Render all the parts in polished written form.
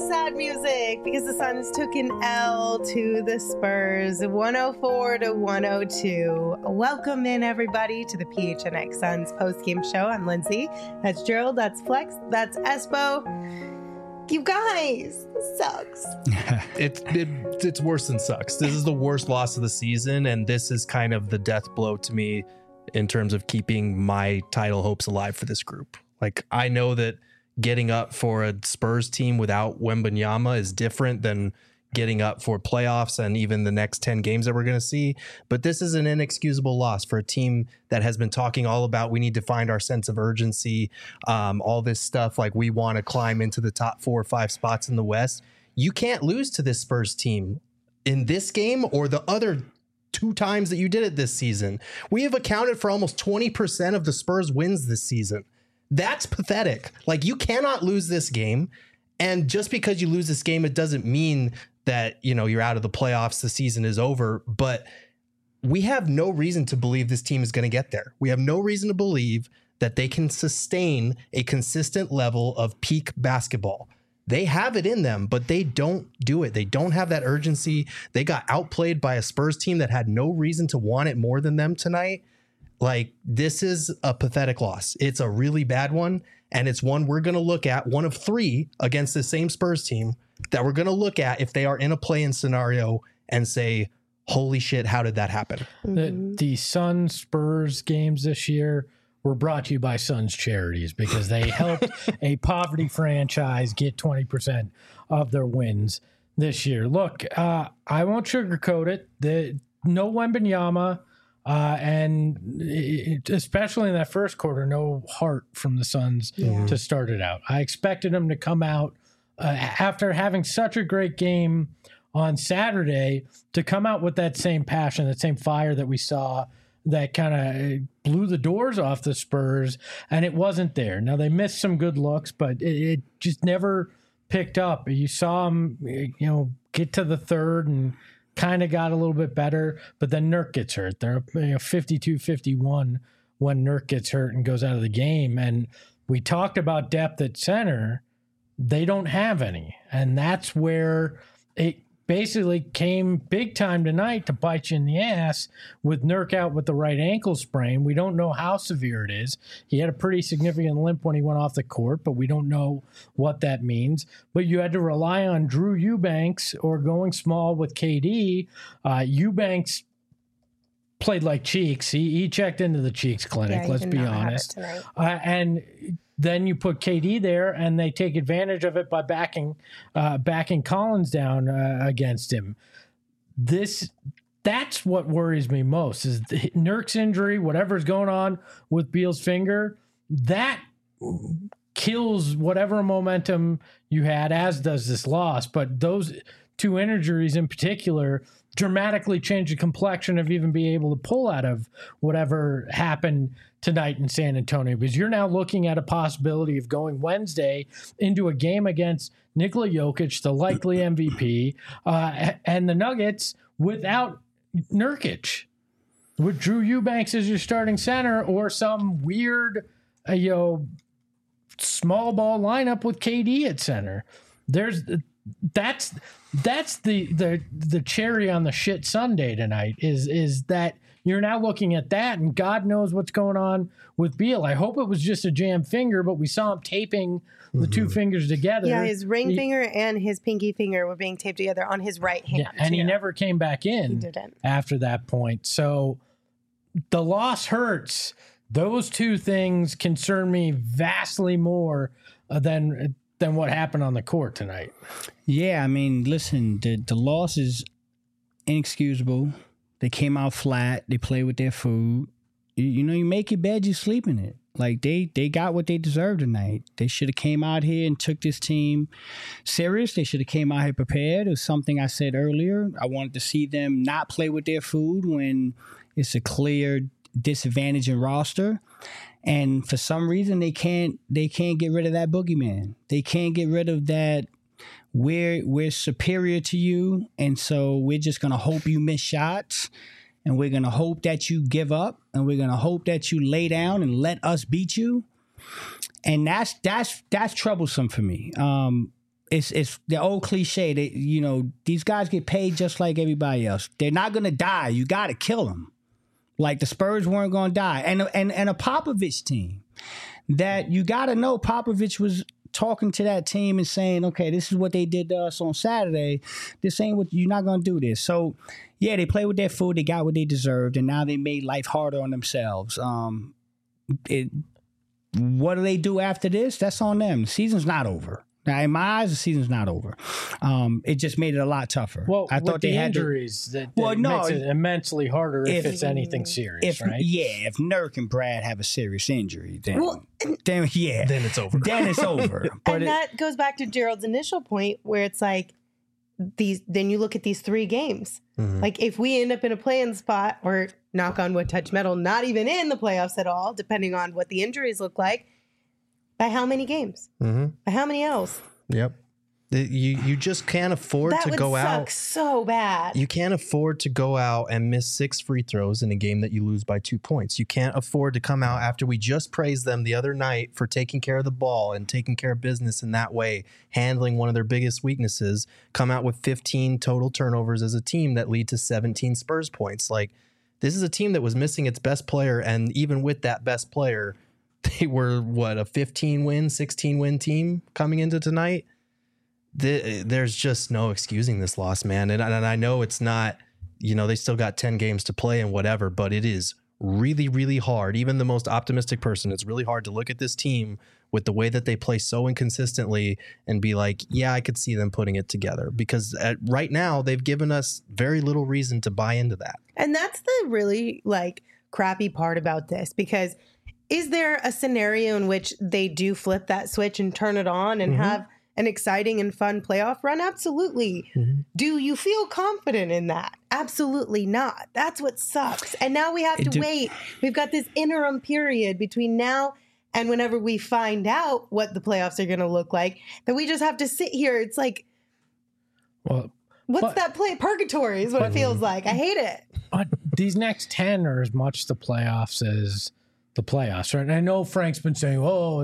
sad music because the Suns took an L to the Spurs, 104-102. Welcome in, everybody, to the PHNX Suns postgame show. I'm Lindsay. That's Gerald. That's Flex. That's Espo. You guys, this sucks. It's worse than sucks. This is the worst loss of the season, and this is kind of the death blow to me in terms of keeping my title hopes alive for this group. Like, I know that getting up for a Spurs team without Wembanyama is different than getting up for playoffs and even the next 10 games that we're going to see. But this is an inexcusable loss for a team that has been talking all about we need to find our sense of urgency, all this stuff like we want to climb into the top 4 or 5 spots in the West. You can't lose to this Spurs team in this game or the other 2 times that you did it this season. We have accounted for almost 20% of the Spurs wins this season. That's pathetic. Like, you cannot lose this game. And just because you lose this game, it doesn't mean that, you know, you're out of the playoffs, the season is over. But we have no reason to believe this team is going to get there. We have no reason to believe that they can sustain a consistent level of peak basketball. They have it in them, but they don't do it. They don't have that urgency. They got outplayed by a Spurs team that had no reason to want it more than them tonight. Like, this is a pathetic loss. It's a really bad one, and it's one we're going to look at, one of 3 against the same Spurs team that we're going to look at if they are in a play-in scenario and say, holy shit, how did that happen? The Suns Spurs games this year were brought to you by Suns Charities because they helped a poverty franchise get 20% of their wins this year. Look, I won't sugarcoat it. No Wembanyama. And especially in that first quarter, no heart from the Suns to start it out. I expected them to come out after having such a great game on Saturday to come out with that same passion, that same fire that we saw that kind of blew the doors off the Spurs, and it wasn't there. Now, they missed some good looks, but it just never picked up. You saw them, get to the third and kind of got a little bit better, but then Nurk gets hurt. They're 52-51 when Nurk gets hurt and goes out of the game. And we talked about depth at center. They don't have any. And that's where it basically came big time tonight to bite you in the ass with Nurk out with the right ankle sprain. We don't know how severe it is. He had a pretty significant limp when he went off the court, but we don't know what that means. But you had to rely on Drew Eubanks or going small with KD. Eubanks played like Cheeks. He checked into the Cheeks clinic, let's be honest. And then you put KD there, and they take advantage of it by backing Collins down against him. That's what worries me most is Nurk's injury, whatever's going on with Beal's finger, that kills whatever momentum you had, as does this loss. But those 2 injuries in particular dramatically change the complexion of even being able to pull out of whatever happened tonight in San Antonio, because you're now looking at a possibility of going Wednesday into a game against Nikola Jokic, the likely MVP, and the Nuggets without Nurkic, with Drew Eubanks as your starting center, or some weird, small ball lineup with KD at center. That's the cherry on the shit sundae tonight is that you're now looking at that, and God knows what's going on with Beal. I hope it was just a jammed finger, but we saw him taping the 2 fingers together. Yeah, his ring finger and his pinky finger were being taped together on his right hand. Yeah, and he never came back in after that point. So the loss hurts. Those 2 things concern me vastly more than what happened on the court tonight. Yeah, I mean, listen, the loss is inexcusable. They came out flat. They played with their food. You make your bed, you sleep in it. Like, they got what they deserved tonight. They should have came out here and took this team serious. They should have came out here prepared. It was something I said earlier. I wanted to see them not play with their food when it's a clear disadvantage in roster. And for some reason, they can't get rid of that boogeyman. They can't get rid of that. We're superior to you, and so we're just gonna hope you miss shots, and we're gonna hope that you give up, and we're gonna hope that you lay down and let us beat you. And that's troublesome for me. it's the old cliche that, you know, these guys get paid just like everybody else. They're not going to die. You got to kill them. Like the Spurs weren't going to die. And a Popovich team that you got to know Popovich was talking to that team and saying, okay, this is what they did to us on Saturday. This ain't what you're not going to do this. So, yeah, they played with their food. They got what they deserved. And now they made life harder on themselves. What do they do after this? That's on them. The season's not over. Now, in my eyes, the season's not over. It just made it a lot tougher. Well, I thought they had injuries that makes it immensely harder if it's anything serious, right? Yeah, if Nurk and Brad have a serious injury, then it's over. Then it's over. But and that goes back to Gerald's initial point, where it's like then you look at these 3 games. Mm-hmm. Like if we end up in a play-in spot, or knock on wood, touch metal, not even in the playoffs at all, depending on what the injuries look like. By how many games? Mm-hmm. By how many L's? Yep. You just can't afford to go out. That would suck so bad. You can't afford to go out and miss 6 free throws in a game that you lose by 2 points. You can't afford to come out after we just praised them the other night for taking care of the ball and taking care of business in that way, handling one of their biggest weaknesses, come out with 15 total turnovers as a team that lead to 17 Spurs points. Like, this is a team that was missing its best player, and even with that best player, they were, a 15-win, 16-win team coming into tonight? There's just no excusing this loss, man. And I know it's not, they still got 10 games to play and whatever, but it is really, really hard. Even the most optimistic person, it's really hard to look at this team with the way that they play so inconsistently and be like, yeah, I could see them putting it together, because right now they've given us very little reason to buy into that. And that's the really crappy part about this, because is there a scenario in which they do flip that switch and turn it on and have an exciting and fun playoff run? Absolutely. Mm-hmm. Do you feel confident in that? Absolutely not. That's what sucks. And now we have to wait. We've got this interim period between now and whenever we find out what the playoffs are going to look like, that we just have to sit here. It's like, what's that play? Purgatory is what it feels like. I hate it. But these next 10 are as much the playoffs as the playoffs, right? And I know Frank's been saying,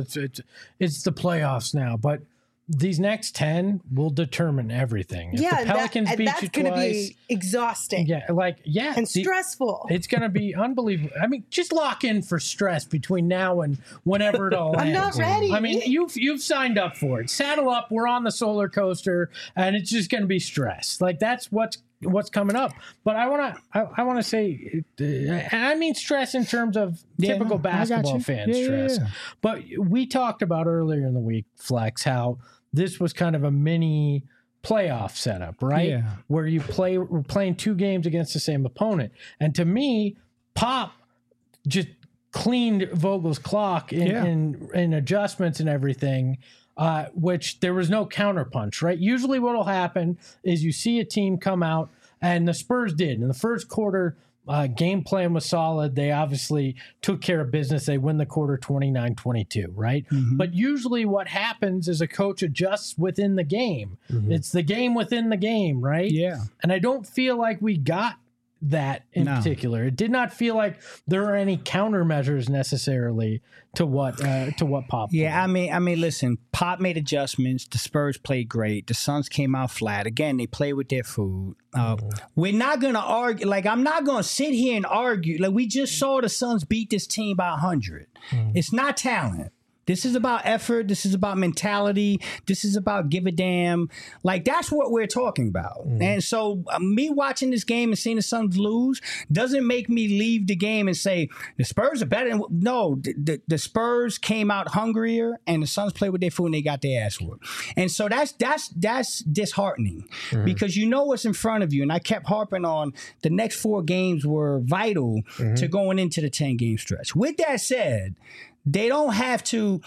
it's the playoffs now, but these next 10 will determine everything. If the Pelicans beat you twice, going to be exhausting. And stressful. It's going to be unbelievable. I mean, just lock in for stress between now and whenever it all ends. I'm not ready. I mean, you've signed up for it. Saddle up. We're on the roller coaster, and it's just going to be stress. That's what's coming up. But I want to say, and I mean stress in terms of typical basketball fan stress. Yeah. But we talked about earlier in the week, Flex, how this was kind of a mini playoff setup, right? Yeah. Where we're playing 2 games against the same opponent. And to me, Pop just cleaned Vogel's clock in adjustments and everything. Which there was no counterpunch, right? Usually what will happen is you see a team come out, and the Spurs did. In the first quarter, game plan was solid. They obviously took care of business. They win the quarter 29-22, right? Mm-hmm. But usually what happens is a coach adjusts within the game. Mm-hmm. It's the game within the game, right? Yeah. And I don't feel like we got that in particular. It did not feel like there are any countermeasures necessarily to what Pop played. I mean, listen, Pop made adjustments. The Spurs played great. The Suns came out flat. Again, they play with their food. We're not going to argue. I'm not going to sit here and argue. We just saw the Suns beat this team by 100. It's not talent. This is about effort. This is about mentality. This is about give a damn. That's what we're talking about. And so me watching this game and seeing the Suns lose doesn't make me leave the game and say the Spurs are better. No, the Spurs came out hungrier, and the Suns played with their food and they got their ass whooped. And so that's disheartening because you know what's in front of you. And I kept harping on the next 4 games were vital to going into the 10-game stretch. With that said, they don't have to,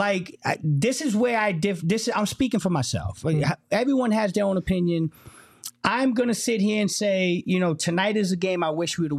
this is where I'm speaking for myself. Everyone has their own opinion. I'm going to sit here and say, tonight is a game I wish we would have won.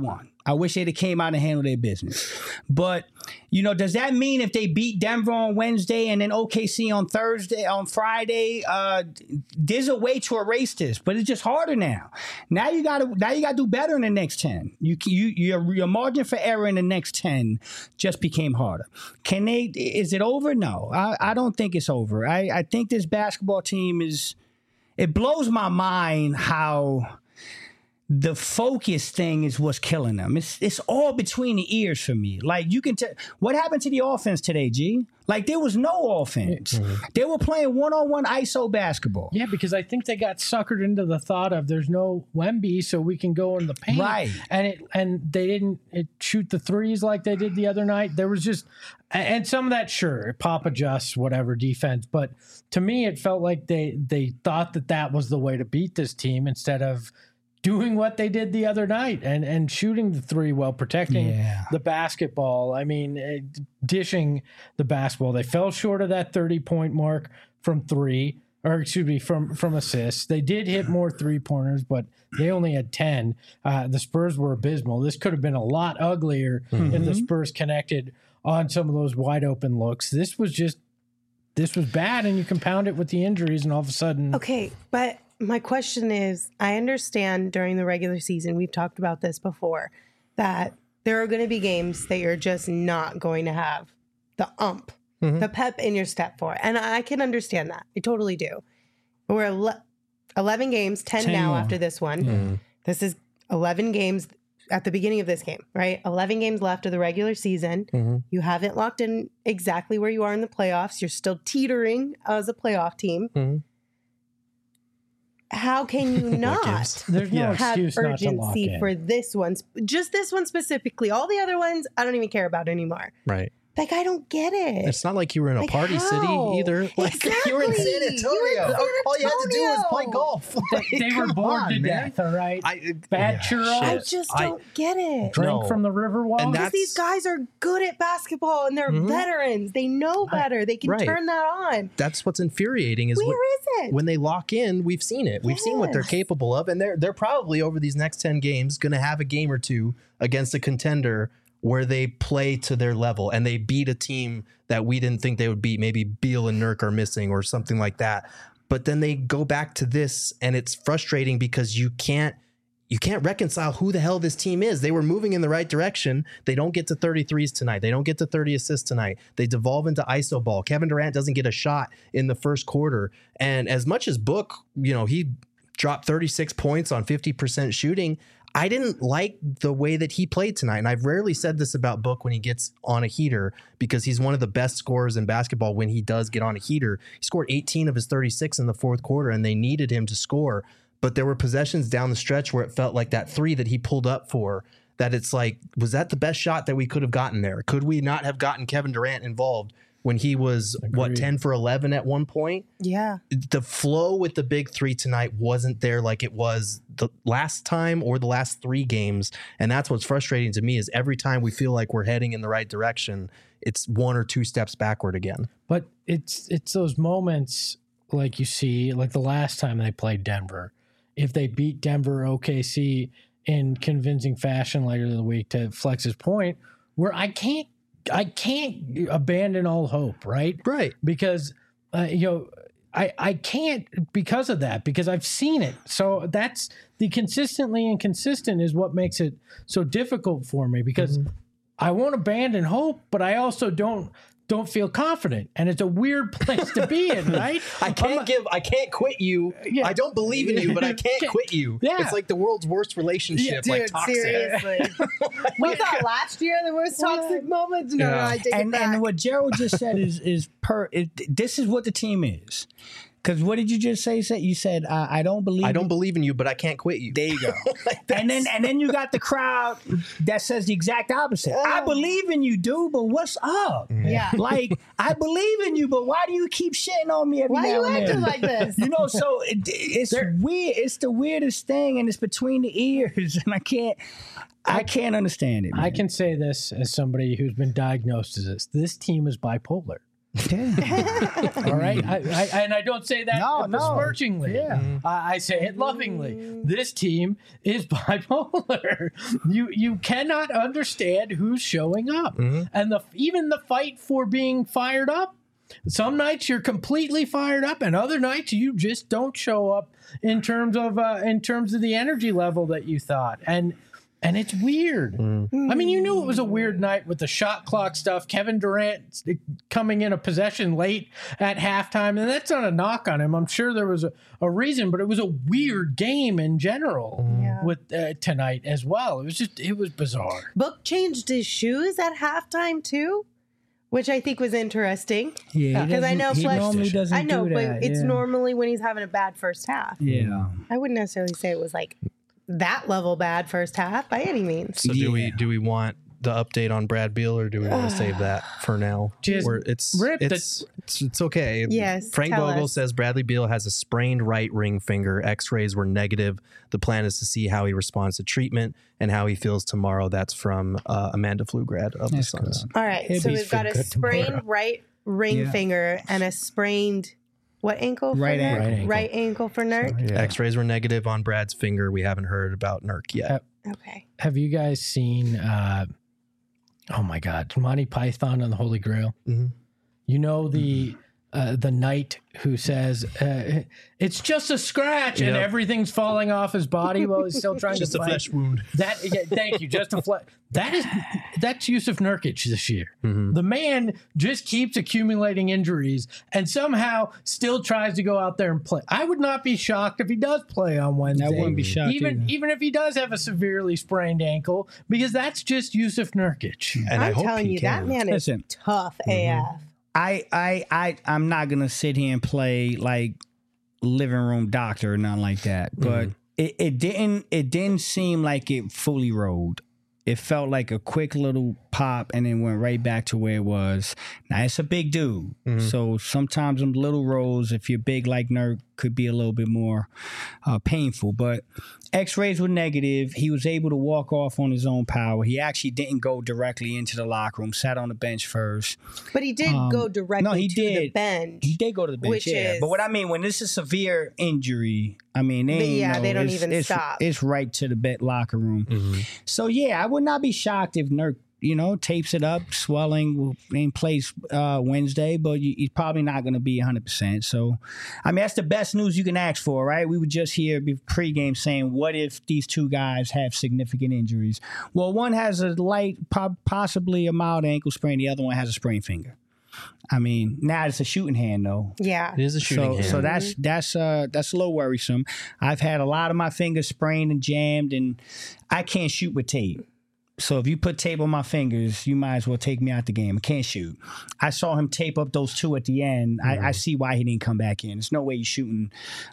I wish they'd have came out and handled their business. But, you know, does that mean if they beat Denver on Wednesday and then OKC on Friday, there's a way to erase this, but it's just harder now. Now you gotta do better in the next 10. Your margin for error in the next 10 just became harder. Is it over? No, I don't think it's over. I think this basketball team it blows my mind how the focus thing is what's killing them. It's all between the ears for me. Like, you can tell what happened to the offense today, G. Like, there was no offense. Mm-hmm. They were playing one-on-one ISO basketball. Yeah, because I think they got suckered into the thought of there's no Wemby, so we can go in the paint. Right. And they didn't shoot the threes like they did the other night. There was just, and some of that, sure, pop adjusts, whatever, defense. But to me, it felt like they thought that was the way to beat this team instead of doing what they did the other night and shooting the three while protecting the basketball. I mean, dishing the basketball. They fell short of that 30-point mark from three, or excuse me, from assists. They did hit more three-pointers, but they only had 10. The Spurs were abysmal. This could have been a lot uglier if the Spurs connected on some of those wide-open looks. This was bad, and you compound it with the injuries, and all of a sudden... Okay, but... my question is, I understand during the regular season, we've talked about this before, that there are going to be games that you're just not going to have the the pep in your step for. And I can understand that. I totally do. We're 11 games, 10 now more. After this one. Mm-hmm. This is 11 games at the beginning of this game, right? 11 games left of the regular season. Mm-hmm. You haven't locked in exactly where you are in the playoffs. You're still teetering as a playoff team. Mm-hmm. How can you not There's no have excuse urgency not to for this one? Just this one specifically. All the other ones, I don't even care about anymore. Right. Like, I don't get it. It's not like you were in a party city either. Like, exactly. You were in San Antonio. All you had to do was play golf. They were bored to death, all right? Bad churros. I just don't get it. Drink from the Riverwalk. Because these guys are good at basketball and they're veterans. They know better. They can turn that on. That's what's infuriating is when they lock in, we've seen it. We've seen what they're capable of. And they're probably over these next 10 games going to have a game or two against a contender where they play to their level and they beat a team that we didn't think they would beat. Maybe Beal and Nurk are missing or something like that. But then they go back to this and it's frustrating because you can't reconcile who the hell this team is. They were moving in the right direction. They don't get to 33s tonight. They don't get to 30 assists tonight. They devolve into ISO ball. Kevin Durant doesn't get a shot in the first quarter. And as much as Book, he dropped 36 points on 50% shooting, I didn't like the way that he played tonight. And I've rarely said this about Book when he gets on a heater because he's one of the best scorers in basketball when he does get on a heater. He scored 18 of his 36 in the fourth quarter and they needed him to score. But there were possessions down the stretch where it felt like that three that he pulled up for, that it's like, was that the best shot that we could have gotten there? Could we not have gotten Kevin Durant involved when he was, 10 for 11 at one point? Yeah. The flow with the big three tonight wasn't there like it was the last time or the last three games. And that's what's frustrating to me is every time we feel like we're heading in the right direction, it's one or two steps backward again. But it's those moments like you see, like the last time they played Denver. If they beat Denver, OKC in convincing fashion later in the week, to Flex's point, where I can't abandon all hope, right? Right. Because, I can't because of that, because I've seen it. So that's the consistently inconsistent is what makes it so difficult for me, because I won't abandon hope, but I also don't feel confident, and it's a weird place to be in, right? I can't quit you. Yeah. I don't believe in you, but I can't quit you. Yeah. It's like the world's worst relationship, like toxic. Seriously. We thought last year the most toxic moments. No, I take it back. And what Gerald just said is this is what the team is. Because what did you just say? You said, I don't believe in you, but I can't quit you. There you go. and then you got the crowd that says the exact opposite. I believe in you, dude, but what's up? Yeah. Like, I believe in you, but why do you keep shitting on me every now and then? Why are you acting like this? So it's weird. It's the weirdest thing, and it's between the ears, and I can't understand it, man. I can say this as somebody who's been diagnosed as this. This team is bipolar. All right, and I don't say that No. besmirchingly. Yeah. I say it lovingly. This team is bipolar. You cannot understand who's showing up, and even the fight for being fired up. Some nights you're completely fired up, and other nights you just don't show up in terms of the energy level that you thought. And it's weird. I mean, you knew it was a weird night with the shot clock stuff. Kevin Durant coming in a possession late at halftime, and that's not a knock on him. I'm sure there was a reason, but it was a weird game in general with tonight as well. It was bizarre. Book changed his shoes at halftime too, which I think was interesting. Yeah, because I know he normally doesn't I know, do that. but it's normally when he's having a bad first half. Yeah. I wouldn't necessarily say it was like that level bad first half by any means. So do we want the update on Brad Beal, or do we want to save that for now? Just Or it's okay. Yes, Frank tell Vogel us. says Bradley Beal has a sprained right ring finger. X-rays were negative. The plan is to see how he responds to treatment and how he feels tomorrow. That's from Amanda Pflugrad of the Suns. All right, He'll so be we've got a good sprained tomorrow. right ring Yeah. finger and a sprained what ankle? For Right Nurk? ankle. Right ankle for Nurk. X-rays were negative on Brad's finger. We haven't heard about Nurk yet. Okay. Have you guys seen? Oh my God, Monty Python and the Holy Grail. Mhm. You know the knight who says it's just a scratch and Yep. everything's falling off his body while he's still trying Just to a fight. flesh wound. Thank you. Just a flesh. That's Yusuf Nurkic this year. Mm-hmm. The man just keeps accumulating injuries and somehow still tries to go out there and play. I would not be shocked if he does play on Wednesday. I wouldn't be shocked either. even if he does have a severely sprained ankle, because that's just Yusuf Nurkic. And I I'm hope telling he you, can. that man is Listen. tough AF. I'm not gonna sit here and play like living room doctor or nothing like that. But it didn't seem like it fully rolled. It felt like a quick little pop and then went right back to where it was. Now it's a big dude, so sometimes them little rolls, if you're big like Nurk, could be a little bit more painful. But X-rays were negative. He was able to walk off on his own power. He actually didn't go directly into the locker room. Sat on the bench first. But he did go directly to the bench. He did go to the bench, Which yeah. is- But what I mean, when this is severe injury, I mean, they don't even stop. It's right to the locker room. So yeah, I would not be shocked if Nurk, tapes it up, swelling, and plays Wednesday, but he's probably not going to be 100%. So, I mean, that's the best news you can ask for, right? We were just here pregame saying, what if these two guys have significant injuries? Well, one has a light, possibly a mild ankle sprain. The other one has a sprained finger. I mean, now it's a shooting hand, though. Yeah. It is a shooting hand. So that's a little worrisome. I've had a lot of my fingers sprained and jammed, and I can't shoot with tape. So if you put tape on my fingers, you might as well take me out the game. I can't shoot. I saw him tape up those two at the end. I see why he didn't come back in. There's no way he's shooting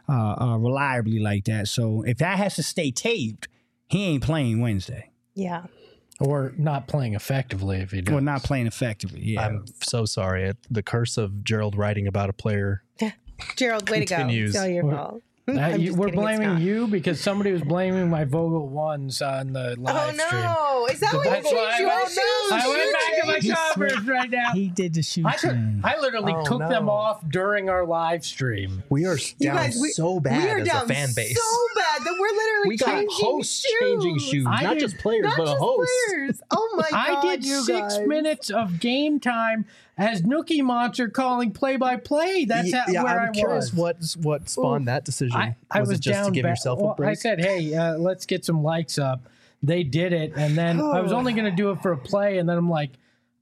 reliably like that. So if that has to stay taped, he ain't playing Wednesday. Yeah. Or not playing effectively if he does. Or not playing effectively. Yeah. I'm so sorry. The curse of Gerald writing about a player. Gerald, way to go. Continues. It's all your fault. I'm just We're kidding, it's blaming not. you because somebody was blaming my Vogel ones on the live Oh stream. no! Is that what That's you why changed your I shoes? I went back to my He covers right now. He did the shoot. I literally Oh, took no. them off during our live stream. We are You down guys, so bad we are as down a fan base. so bad that we're literally We got changing hosts shoes. changing shoes, I not did- just players, Not but a just host. players. Oh my god! I did you 6 guys. minutes of game time as Nookie Monster calling play-by-play. That's where I I'm curious was. what spawned that decision. I was it just down to give bad. yourself Well, a break? I said, hey, let's get some likes up. They did it, and then I was only going to do it for a play, and then I'm like,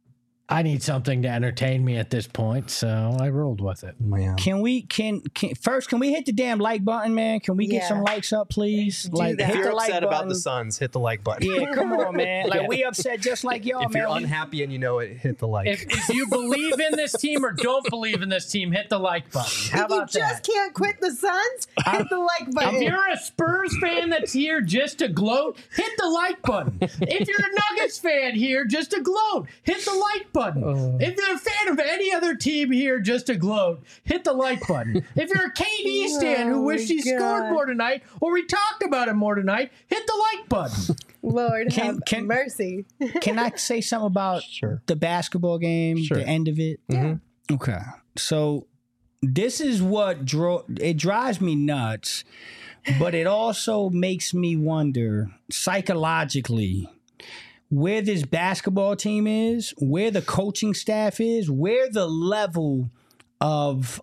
I need something to entertain me at this point, so I rolled with it. Man. Can we first can we hit the damn like button, man? Can we get Yeah. some likes up, please? Do Like that. If hit you're the like upset about button. the Suns, hit the like button. Yeah, come on, man. Like we upset just like y'all, If man. you're We- unhappy and you know it, hit the like. If you believe in this team or don't believe in this team, hit the like button. How If you about just that? can't quit the Suns, hit the like button. If you're a Spurs fan that's here just to gloat, hit the like button. If you're a Nuggets fan here just to gloat, hit the like button. If you're a fan of any other team here just to gloat, hit the like button. If you're a KD stan who Oh wished he my scored God. more tonight or we talked about him more tonight, hit the like button. Lord have can- mercy. Can I say something about Sure. the basketball game, Sure. the end of it? Okay. So this is what it drives me nuts, but it also makes me wonder psychologically where this basketball team is, where the coaching staff is, where the level of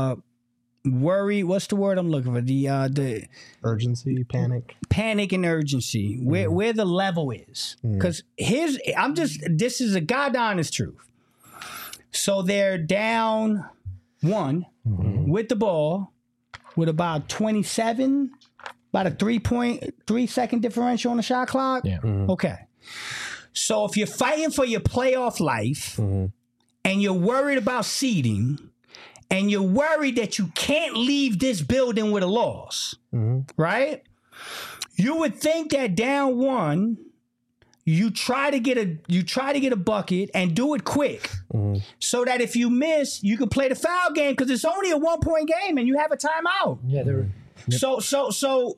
worry, what's the word I'm looking for? The Urgency, panic and urgency, where the level is. Because this is a God honest truth. So they're down 1 with the ball with about 27, about a 3 second differential on the shot clock. Yeah. Okay. So if you're fighting for your playoff life and you're worried about seeding and you're worried that you can't leave this building with a loss, right? You would think that down 1, you try to get a bucket and do it quick, so that if you miss, you can play the foul game because it's only a 1-point game and you have a timeout. Yeah, So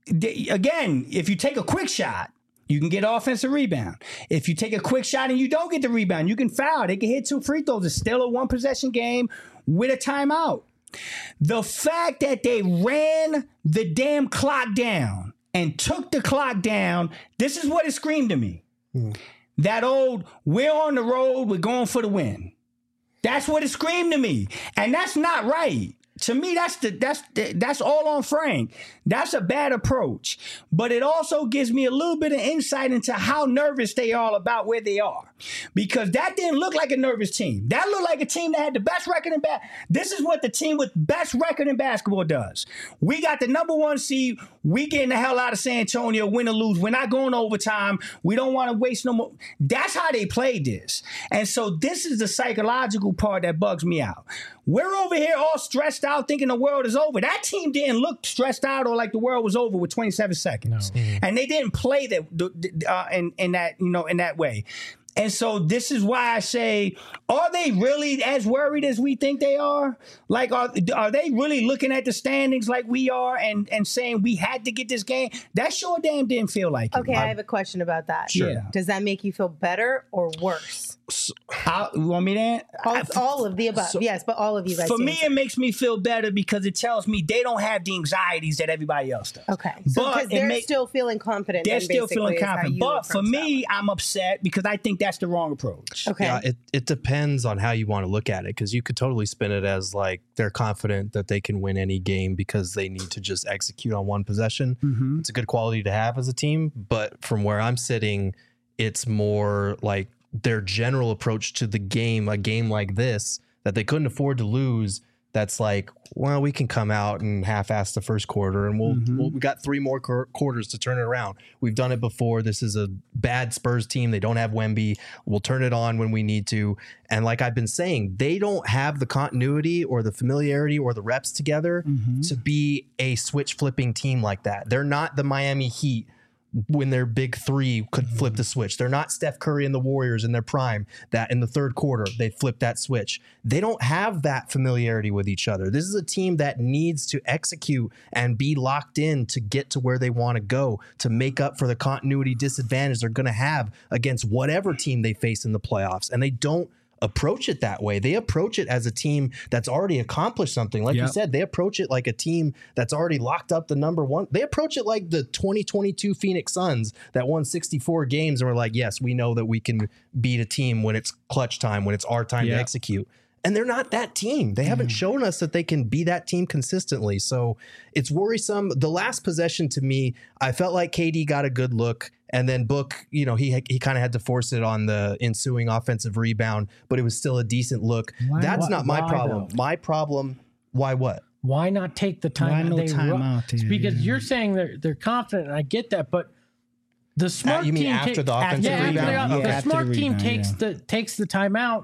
again, if you take a quick shot, you can get offensive rebound. If you take a quick shot and you don't get the rebound, you can foul. They can hit 2 free throws. It's still a 1-possession game with a timeout. The fact that they ran the damn clock down and took the clock down, this is what it screamed to me. That old, we're on the road, we're going for the win. That's what it screamed to me. And that's not right. To me, that's all on Frank. That's a bad approach. But it also gives me a little bit of insight into how nervous they are about where they are. Because that didn't look like a nervous team. That looked like a team that had the best record in basketball. This is what the team with best record in basketball does. We got the number 1 seed. We getting the hell out of San Antonio, win or lose. We're not going overtime. We don't want to waste no more. That's how they played this. And so this is the psychological part that bugs me out. We're over here all stressed out thinking the world is over. That team didn't look stressed out or like the world was over with 27 seconds. No. And they didn't play that in that way. And so this is why I say, are they really as worried as we think they are? Like, are they really looking at the standings like we are and saying we had to get this game? That sure damn didn't feel like it. Okay, I have a question about that. Sure. Yeah. Does that make you feel better or worse? You want me to? All of the above. Yes, but all of you guys. For me, it makes me feel better because it tells me they don't have the anxieties that everybody else does. Okay. So because they're still feeling confident. They're still feeling confident. But for me, I'm upset because I think that's the wrong approach. Okay. Yeah, it depends on how you want to look at it, because you could totally spin it as like they're confident that they can win any game because they need to just execute on one possession. It's a good quality to have as a team. But from where I'm sitting, it's more like their general approach to the game, a game like this that they couldn't afford to lose. That's like, well, we can come out and half-ass the first quarter, and we got 3 more quarters to turn it around. We've done it before. This is a bad Spurs team. They don't have Wemby. We'll turn it on when we need to. And like I've been saying, they don't have the continuity or the familiarity or the reps together to be a switch-flipping team like that. They're not the Miami Heat when their big 3 could flip the switch. They're not Steph Curry and the Warriors in their prime that in the third quarter they flip that switch. They don't have that familiarity with each other. This is a team that needs to execute and be locked in to get to where they want to go, to make up for the continuity disadvantage they're going to have against whatever team they face in the playoffs. And they don't approach it that way. They approach it as a team that's already accomplished something. Like you said, they approach it like a team that's already locked up the number 1. They approach it like the 2022 Phoenix Suns that won 64 games and were like, yes, we know that we can beat a team when it's clutch time, when it's our time to execute. And they're not that team. They haven't shown us that they can be that team consistently. So it's worrisome. The last possession to me, I felt like KD got a good look. And then Book, he kind of had to force it on the ensuing offensive rebound, but it was still a decent look. That's not my problem. Though? My problem, why what? Why not take the time? Why no time out? Because you're saying they're confident, and I get that, but the smart you mean team after the offensive rebound? The smart team takes the timeout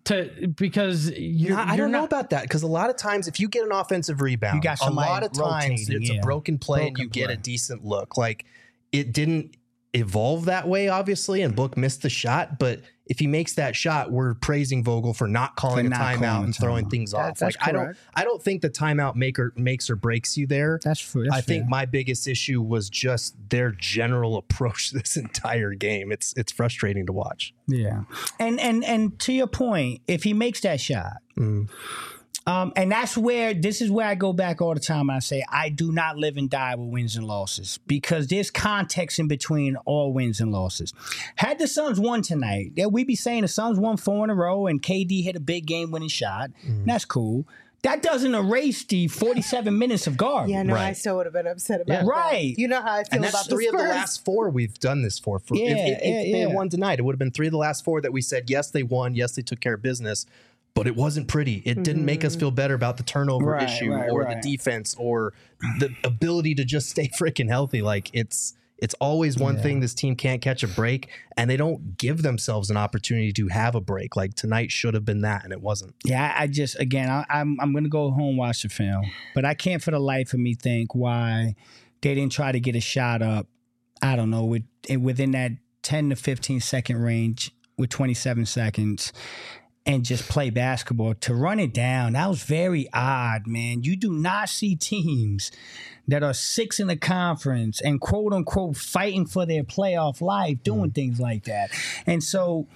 because I don't know about that, because a lot of times if you get an offensive rebound, a lot of times it's a broken play and you get a decent look. Like, it didn't evolve that way, obviously, and Book missed the shot, but if he makes that shot, we're praising Vogel for not calling a timeout and throwing things off. That's I don't think the timeout makes or breaks you there. That's I think my biggest issue was just their general approach this entire game. It's frustrating to watch. Yeah. And to your point, if he makes that shot, and this is where I go back all the time and I say, I do not live and die with wins and losses because there's context in between all wins and losses. Had the Suns won tonight, we'd be saying the Suns won 4 in a row and KD hit a big game winning shot. That's cool. That doesn't erase the 47 minutes of garbage. Yeah, no, Right. I still would have been upset about that. Right. You know how I feel And that's about 3 the of the Spurs. last 4 we've done this for. If they had won tonight, it would have been 3 of the last 4 that we said, yes, they won. Yes, they took care of business. But it wasn't pretty. It didn't make us feel better about the turnover issue or the defense or the ability to just stay freaking healthy. Like it's always one thing this team can't catch a break, and they don't give themselves an opportunity to have a break. Like tonight should have been that, and it wasn't. Yeah, I just, again, I'm going to go home, watch the film. But I can't for the life of me think why they didn't try to get a shot up, I don't know, within that 10 to 15 second range with 27 seconds. And just play basketball. To run it down, that was very odd, man. You do not see teams that are 6 in the conference and quote unquote fighting for their playoff life doing things like that. And so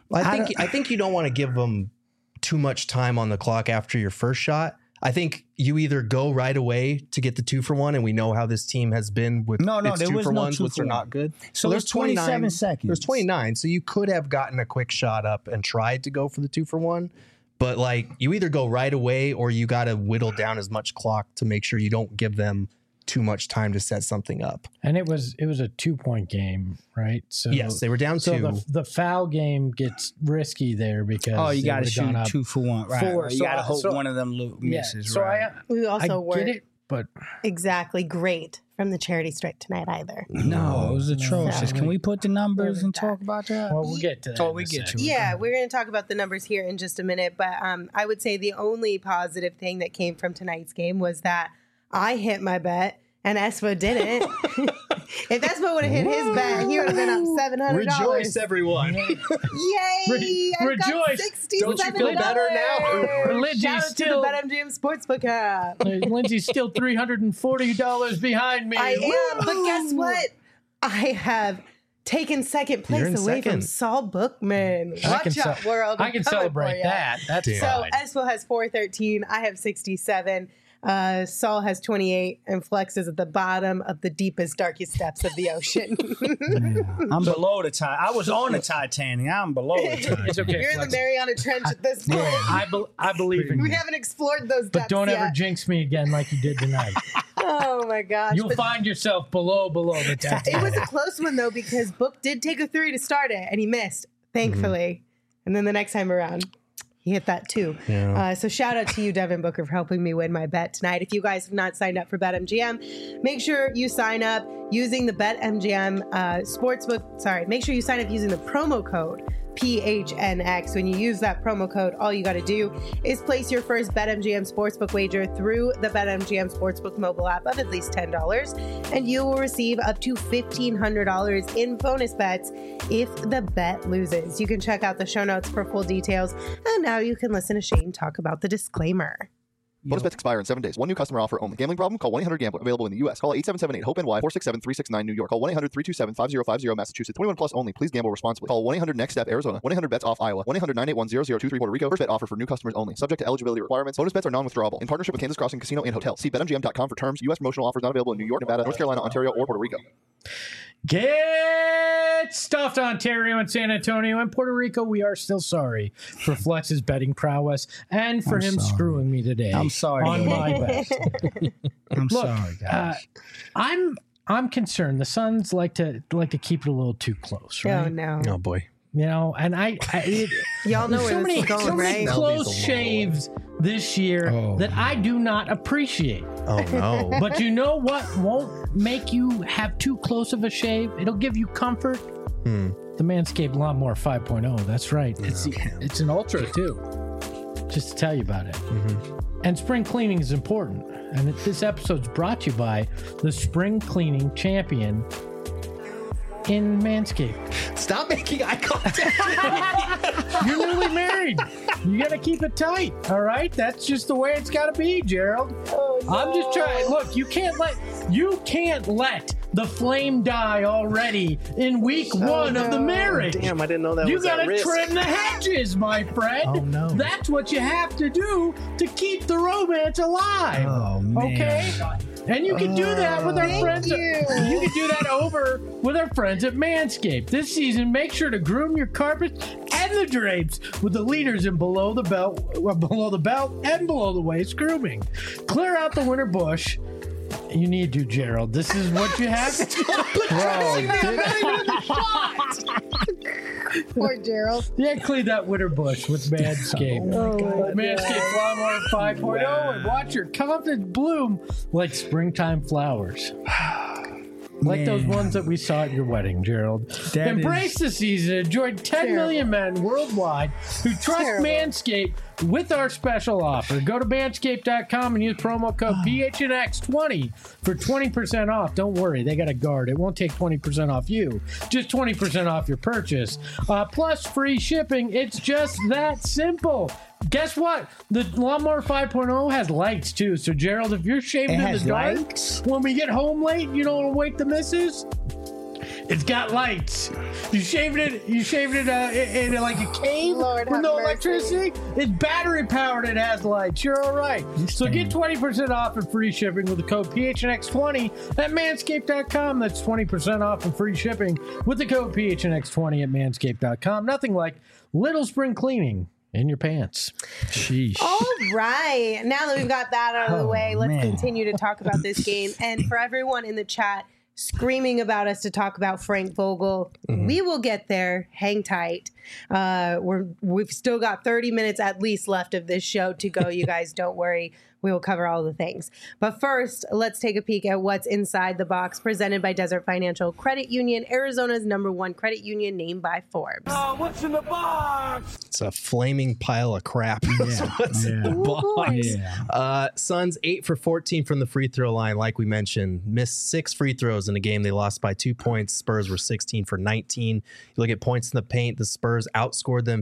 I think you don't want to give them too much time on the clock after your first shot. I think you either go right away to get the 2-for-1, and we know how this team has been with its there was no 2-for-1s, which are 2-for-1. not good. So there's 27 seconds. There's 29, so you could have gotten a quick shot up and tried to go for the 2-for-1. But like, you either go right away or you got to whittle down as much clock to make sure you don't give them too much time to set something up. And it was a 2-point game, right? So yes, they were down 2. So the foul game gets risky there because you got to shoot 2-for-1, right? 4. You got to hope one of them misses. So right? We also I weren't get it, but exactly great from the charity strike tonight either. No, it was atrocious. No. Can we put the numbers and that. talk about that? well, we'll get to that. Oh, in we a get second. to it. Yeah, we're going to talk about the numbers here in just a minute, but I would say the only positive thing that came from tonight's game was that I hit my bet and Espo didn't. If Espo would have hit his bet, he would have been up $700. Rejoice, everyone. Yay! I've got Rejoice. $67. Don't you feel better now? Lindsay's Shout out still- to the BetMGM Sportsbook app. Lindsay's still $340 behind me. I am, but guess what? I have taken second You're place in away from second. Saul Bookman. I Watch can out, world. I I'm can coming for celebrate ya. that. That's Damn. So fine. Espo has 413. I have 67. Saul has 28, and Flex is at the bottom of the deepest, darkest depths of the ocean. I'm below the Titanic. I was on the Titanic. I'm below the Titanic. It's okay. You're in the Flex. Mariana Trench at this point. I believe in We you. haven't explored those depths But don't yet. ever jinx me again like you did tonight. Oh my gosh. You'll But find yourself below the Titanic. it was a close one though, because Book did take a 3 to start it, and he missed, thankfully. And then the next time around, he hit that too. Yeah. So shout out to you, Devin Booker, for helping me win my bet tonight. If you guys have not signed up for BetMGM, make sure you sign up using the BetMGM Sportsbook. Sorry, make sure you sign up using the promo code PHNX. When you use that promo code, all you got to do is place your first BetMGM Sportsbook wager through the BetMGM Sportsbook mobile app of at least $10, and you will receive up to $1,500 in bonus bets if the bet loses. You can check out the show notes for full details, and now you can listen to Shane talk about the disclaimer. Bonus bets expire in 7 days. One new customer offer only. Gambling problem? Call 1-800-GAMBLER. Available in the U.S. Call 877-8-HOPE-NY, 467-369 New York. Call 1-800-327-5050 Massachusetts. 21 plus only. Please gamble responsibly. Call 1-800-NEXT-STEP Arizona. 1-800-BETS-OFF Iowa. 1-800-981-0023 Puerto Rico. First bet offer for new customers only. Subject to eligibility requirements. Bonus bets are non-withdrawable. In partnership with Kansas Crossing Casino and Hotel. See BetMGM.com for terms. U.S. promotional offers not available in New York, Nevada, North Carolina, Ontario, or Puerto Rico. Get stuffed, Ontario and San Antonio and Puerto Rico. We are still sorry for Flex's betting prowess and for him screwing me today. I'm sorry. on my bet. I'm Look, sorry, guys. I'm concerned. The Suns like to keep it a little too close, right? Oh, no. Oh boy. You know, and Y'all know there's where this is going, so many right? close shaves this year that I do not appreciate. Oh no. But you know what won't make you have too close of a shave? It'll give you comfort. The Manscaped Lawnmower 5.0. That's right. It's an ultra too. Just to tell you about it. And spring cleaning is important. And this episode's brought to you by the spring cleaning champion, in Manscaped. Stop making eye contact. You're newly married. You got to keep it tight. All right. That's just the way it's got to be, Gerald. Oh, no. I'm just trying. Look, you can't let the flame die already in week one of the marriage. Damn, I didn't know that you was at risk. You got to trim the hedges, my friend. Oh, no. That's what you have to do to keep the romance alive. Oh, man. Okay? And you can do that with our friends. You can do that over with our friends at Manscaped. This season, make sure to groom your carpets and the drapes with the leaders in below the belt and below the waist grooming. Clear out the winter bush. You need to, Gerald. This is what you have to do. Poor Gerald. Yeah, clean that winter bush with Manscaped. Oh my God. Manscaped Lawnmower 5.0 and watch your confidence bloom like springtime flowers. Like those ones that we saw at your wedding, Gerald. Embrace the season. Enjoy 10 million men worldwide who trust Manscaped with our special offer. Go to manscaped.com and use promo code PHNX20 for 20% off. Don't worry, they got a guard. It won't take 20% off you, just 20% off your purchase. Plus free shipping. It's just that simple. Guess what? The Lawnmower 5.0 has lights too. So Gerald, if you're shaving in the dark, when we get home late, you don't want to wake the missus. It's got lights. You shaved it in like a cave with no electricity. It's battery powered. It has lights. You're all right. So get 20% off and free shipping with the code PHNX20 at manscaped.com. That's 20% off and free shipping with the code PHNX20 at manscaped.com. Nothing like little spring cleaning in your pants. Sheesh. All right. Now that we've got that out of the way, let's continue to talk about this game. And for everyone in the chat screaming about us to talk about Frank Vogel, we will get there. Hang tight. We've still got 30 minutes at least left of this show to go. You guys don't worry. We will cover all the things. But first, let's take a peek at what's inside the box, presented by Desert Financial Credit Union, Arizona's #1 credit union, named by Forbes. What's in the box? It's a flaming pile of crap. That's what's in the box. Suns 8 for 14 from the free throw line, like we mentioned. Missed 6 free throws in a game. They lost by 2 points. Spurs were 16 for 19. You look at points in the paint, the Spurs outscored them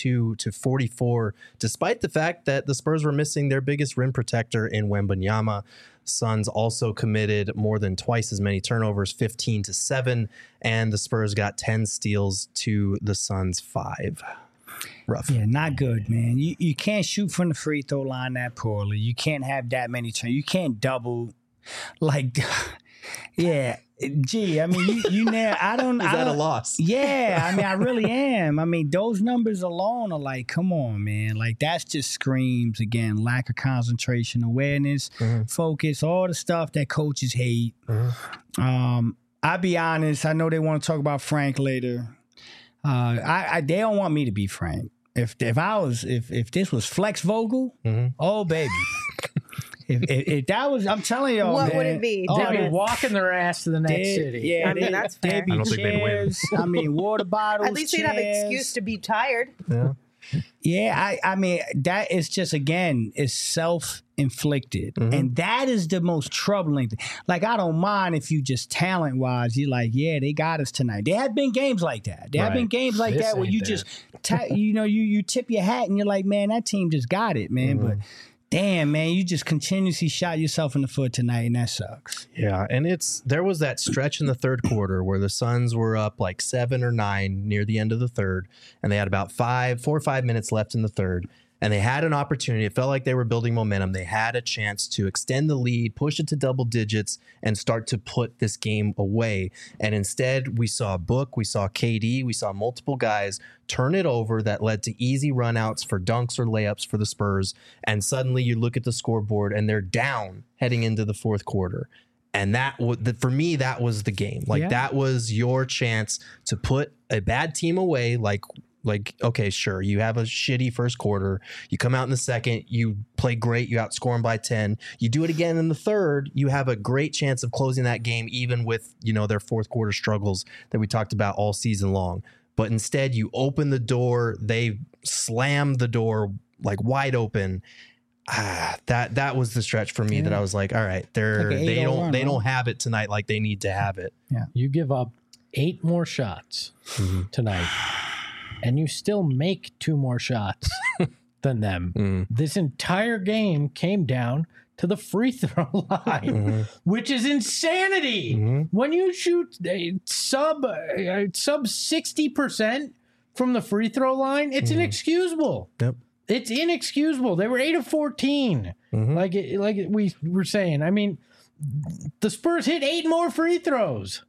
52-44, despite the fact that the Spurs were missing their biggest rim protector in Wembanyama. Suns also committed more than twice as many turnovers, 15-7, and the Spurs got 10 steals to the Suns 5. Rough. Yeah, not good, man. You can't shoot from the free throw line that poorly. You can't have that many turns. You can't double. Like, yeah. Gee, I mean, you know, Is that a loss? Yeah, I mean, I really am. I mean, those numbers alone are like, come on, man. Like, that's just screams, again, lack of concentration, awareness, focus, all the stuff that coaches hate. I'll be honest. I know they want to talk about Frank later. They don't want me to be Frank. If this was Flex Vogel, oh, baby. If that was, I'm telling y'all, what man, would it be? They'd be walking their ass to the next city. Yeah, I mean, that's fair. There'd be I don't think they'd win. chairs. I mean, water bottles. At least they'd have an excuse to be tired. Yeah. Yeah, I mean, that is just, again, is self-inflicted. And that is the most troubling thing. Like, I don't mind if you just talent-wise, you're like, yeah, they got us tonight. There have been games like that. There have been games like that where you just, you tip your hat and you're like, man, that team just got it, man. But damn, man, you just continuously shot yourself in the foot tonight, and that sucks. Yeah, and there was that stretch in the third quarter where the Suns were up like 7 or 9 near the end of the third, and they had about 4 or 5 minutes left in the third, and they had an opportunity. It felt like they were building momentum. They had a chance to extend the lead, push it to double digits, and start to put this game away. And instead, we saw Book, we saw KD, we saw multiple guys turn it over that led to easy runouts for dunks or layups for the Spurs. And suddenly you look at the scoreboard and they're down heading into the fourth quarter. And for me, that was the game. Like, that was your chance to put a bad team away. Like, okay, sure, you have a shitty first quarter. You come out in the second, you play great, you outscore them by 10. You do it again in the third, you have a great chance of closing that game, even with, their fourth quarter struggles that we talked about all season long. But instead, you open the door, they slam the door like wide open. That was the stretch for me that I was like, all right, they don't have it tonight like they need to have it. Yeah, you give up 8 more shots tonight, and you still make 2 more shots than them. This entire game came down to the free throw line, which is insanity. When you shoot sub 60% from the free throw line, it's inexcusable. Yep. It's inexcusable. They were 8 of 14, like we were saying. I mean, the Spurs hit 8 more free throws.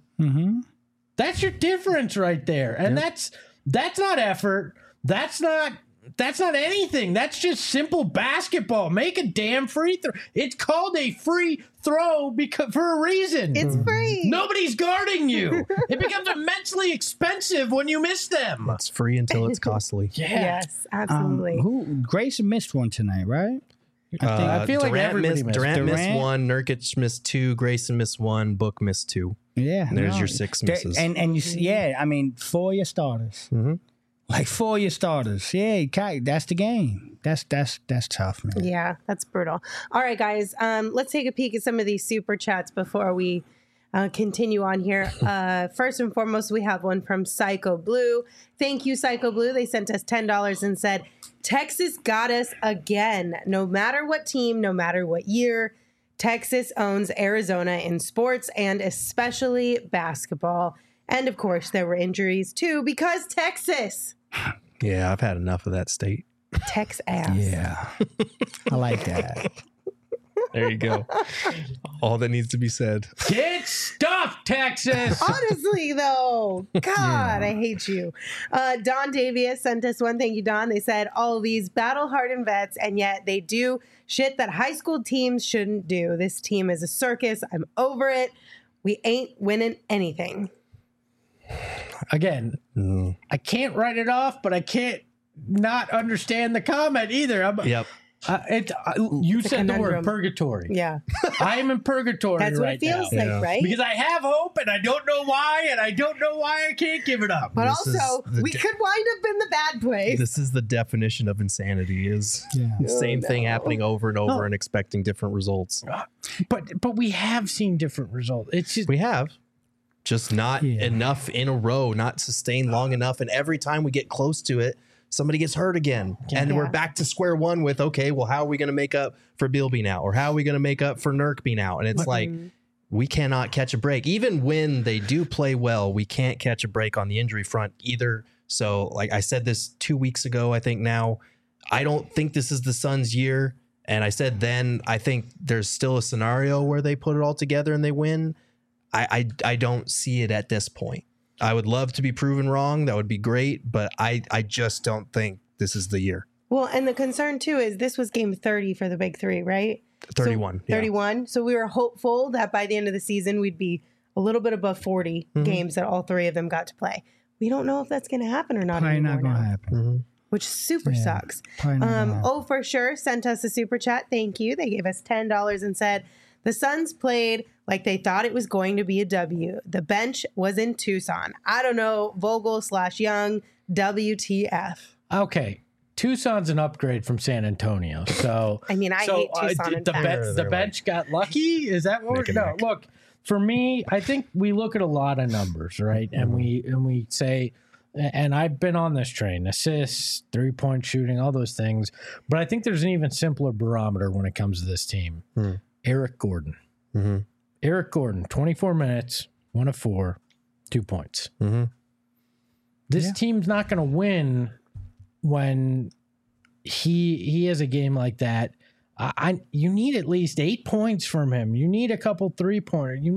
That's your difference right there, and that's not effort. That's not anything. That's just simple basketball. Make a damn free throw. It's called a free throw because for a reason. It's free. Nobody's guarding you. It becomes immensely expensive when you miss them. It's free until it's costly. Yes, absolutely. Grayson missed one tonight, right? I feel like Durant everybody missed. Durant missed Durant. 1, Nurkic missed 2, Grayson missed 1, Book missed 2. Yeah. There's your 6 misses. And you see, I mean, 4 your starters. Like 4 your starters. Yeah, that's the game. That's tough, man. Yeah, that's brutal. All right, guys, let's take a peek at some of these super chats before we continue on here. First and foremost, we have one from Psycho Blue. Thank you, Psycho Blue. They sent us $10 and said, Texas got us again. No matter what team, no matter what year, Texas owns Arizona in sports and especially basketball. And of course, there were injuries too because Texas. Yeah, I've had enough of that state. Tex ass. Yeah. I like that. There you go. All that needs to be said. Get stuffed, Texas. Honestly, though, God, I hate you. Don Davies sent us one. Thank you, Don. They said all these battle-hardened vets, and yet they do shit that high school teams shouldn't do. This team is a circus. I'm over it. We ain't winning anything. Again, I can't write it off, but I can't not understand the comment either. Yep. You said the word conundrum. purgatory. Yeah, I am in purgatory that's what right it feels now. like, right? Because I have hope and I don't know why, and I don't know why I can't give it up. But This also, is the we could wind up in the bad place. This is the definition of insanity is the same thing happening over and over and expecting different results. But we have seen different results. It's just We have. Just not enough in a row, not sustained long enough. And every time we get close to it, somebody gets hurt again. And we're back to square one with, okay, well, how are we going to make up for Beal being out? Or how are we going to make up for Nurk being out? And it's like, we cannot catch a break. Even when they do play well, we can't catch a break on the injury front either. So, like I said this 2 weeks ago, I think now, I don't think this is the Suns' year. And I said then, I think there's still a scenario where they put it all together and they win. I don't see it at this point. I would love to be proven wrong. That would be great. But I just don't think this is the year. Well, and the concern too is this was game 30 for the big three, right? 31. So, 31. So we were hopeful that by the end of the season, we'd be a little bit above 40 games that all 3 of them got to play. We don't know if that's going to happen or not. Probably anymore not going to now, happen. which super sucks. Probably not gonna happen. Oh, for sure. Sent us a super chat. Thank you. They gave us $10 and said, the Suns played like they thought it was going to be a W. The bench was in Tucson. I don't know, Vogel/Young, WTF. okay. Tucson's an upgrade from San Antonio. So I mean, I hate Tucson and facts. the bench got lucky. Is that what we're no? Look, for me, I think we look at a lot of numbers, right? And we say, and I've been on this train: assists, 3-point shooting, all those things. But I think there's an even simpler barometer when it comes to this team. Eric Gordon. Eric Gordon, 24 minutes, 1 of 4, 2 points. This team's not going to win when he has a game like that. You need at least 8 points from him. You need a couple 3-pointer. You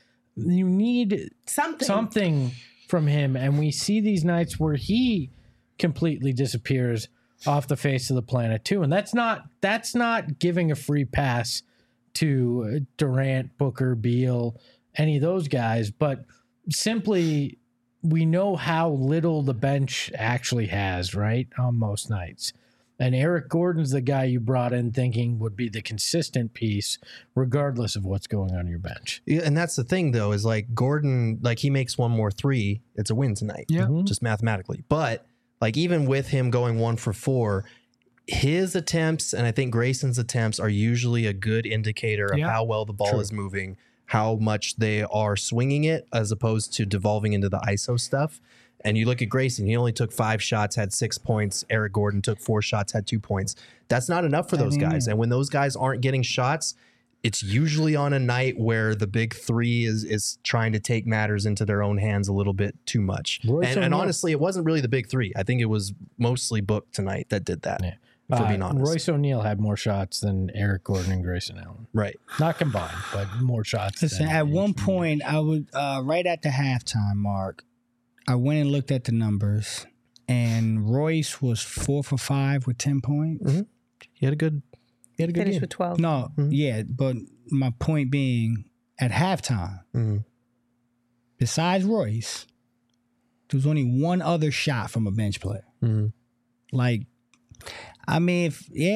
need something from him. And we see these nights where he completely disappears off the face of the planet too. And that's not giving a free pass to Durant, Booker, Beal, any of those guys, but simply we know how little the bench actually has, right, on most nights. And Eric Gordon's the guy you brought in thinking would be the consistent piece regardless of what's going on your bench. Yeah, and that's the thing, though, is like Gordon, like he makes one more 3, it's a win tonight, just mathematically. But like even with him going 1 for 4, his attempts and I think Grayson's attempts are usually a good indicator of how well the ball is moving. how much they are swinging it as opposed to devolving into the ISO stuff. And you look at Grayson, he only took 5 shots, had 6 points. Eric Gordon took 4 shots, had 2 points. That's not enough for those guys. And when those guys aren't getting shots, it's usually on a night where the big three is trying to take matters into their own hands a little bit too much. And honestly, it wasn't really the big three. I think it was mostly Book tonight that did that, for being honest. Royce O'Neal had more shots than Eric Gordon and Grayson Allen. Right. Not combined, but more shots. Listen, at one point, I would, right at the halftime mark, I went and looked at the numbers, and Royce was 4 for 5 with 10 points. Mm-hmm. He had a good Finished game. with 12. No, yeah, but my point being, at halftime, besides Royce, there was only one other shot from a bench player. Like, I mean,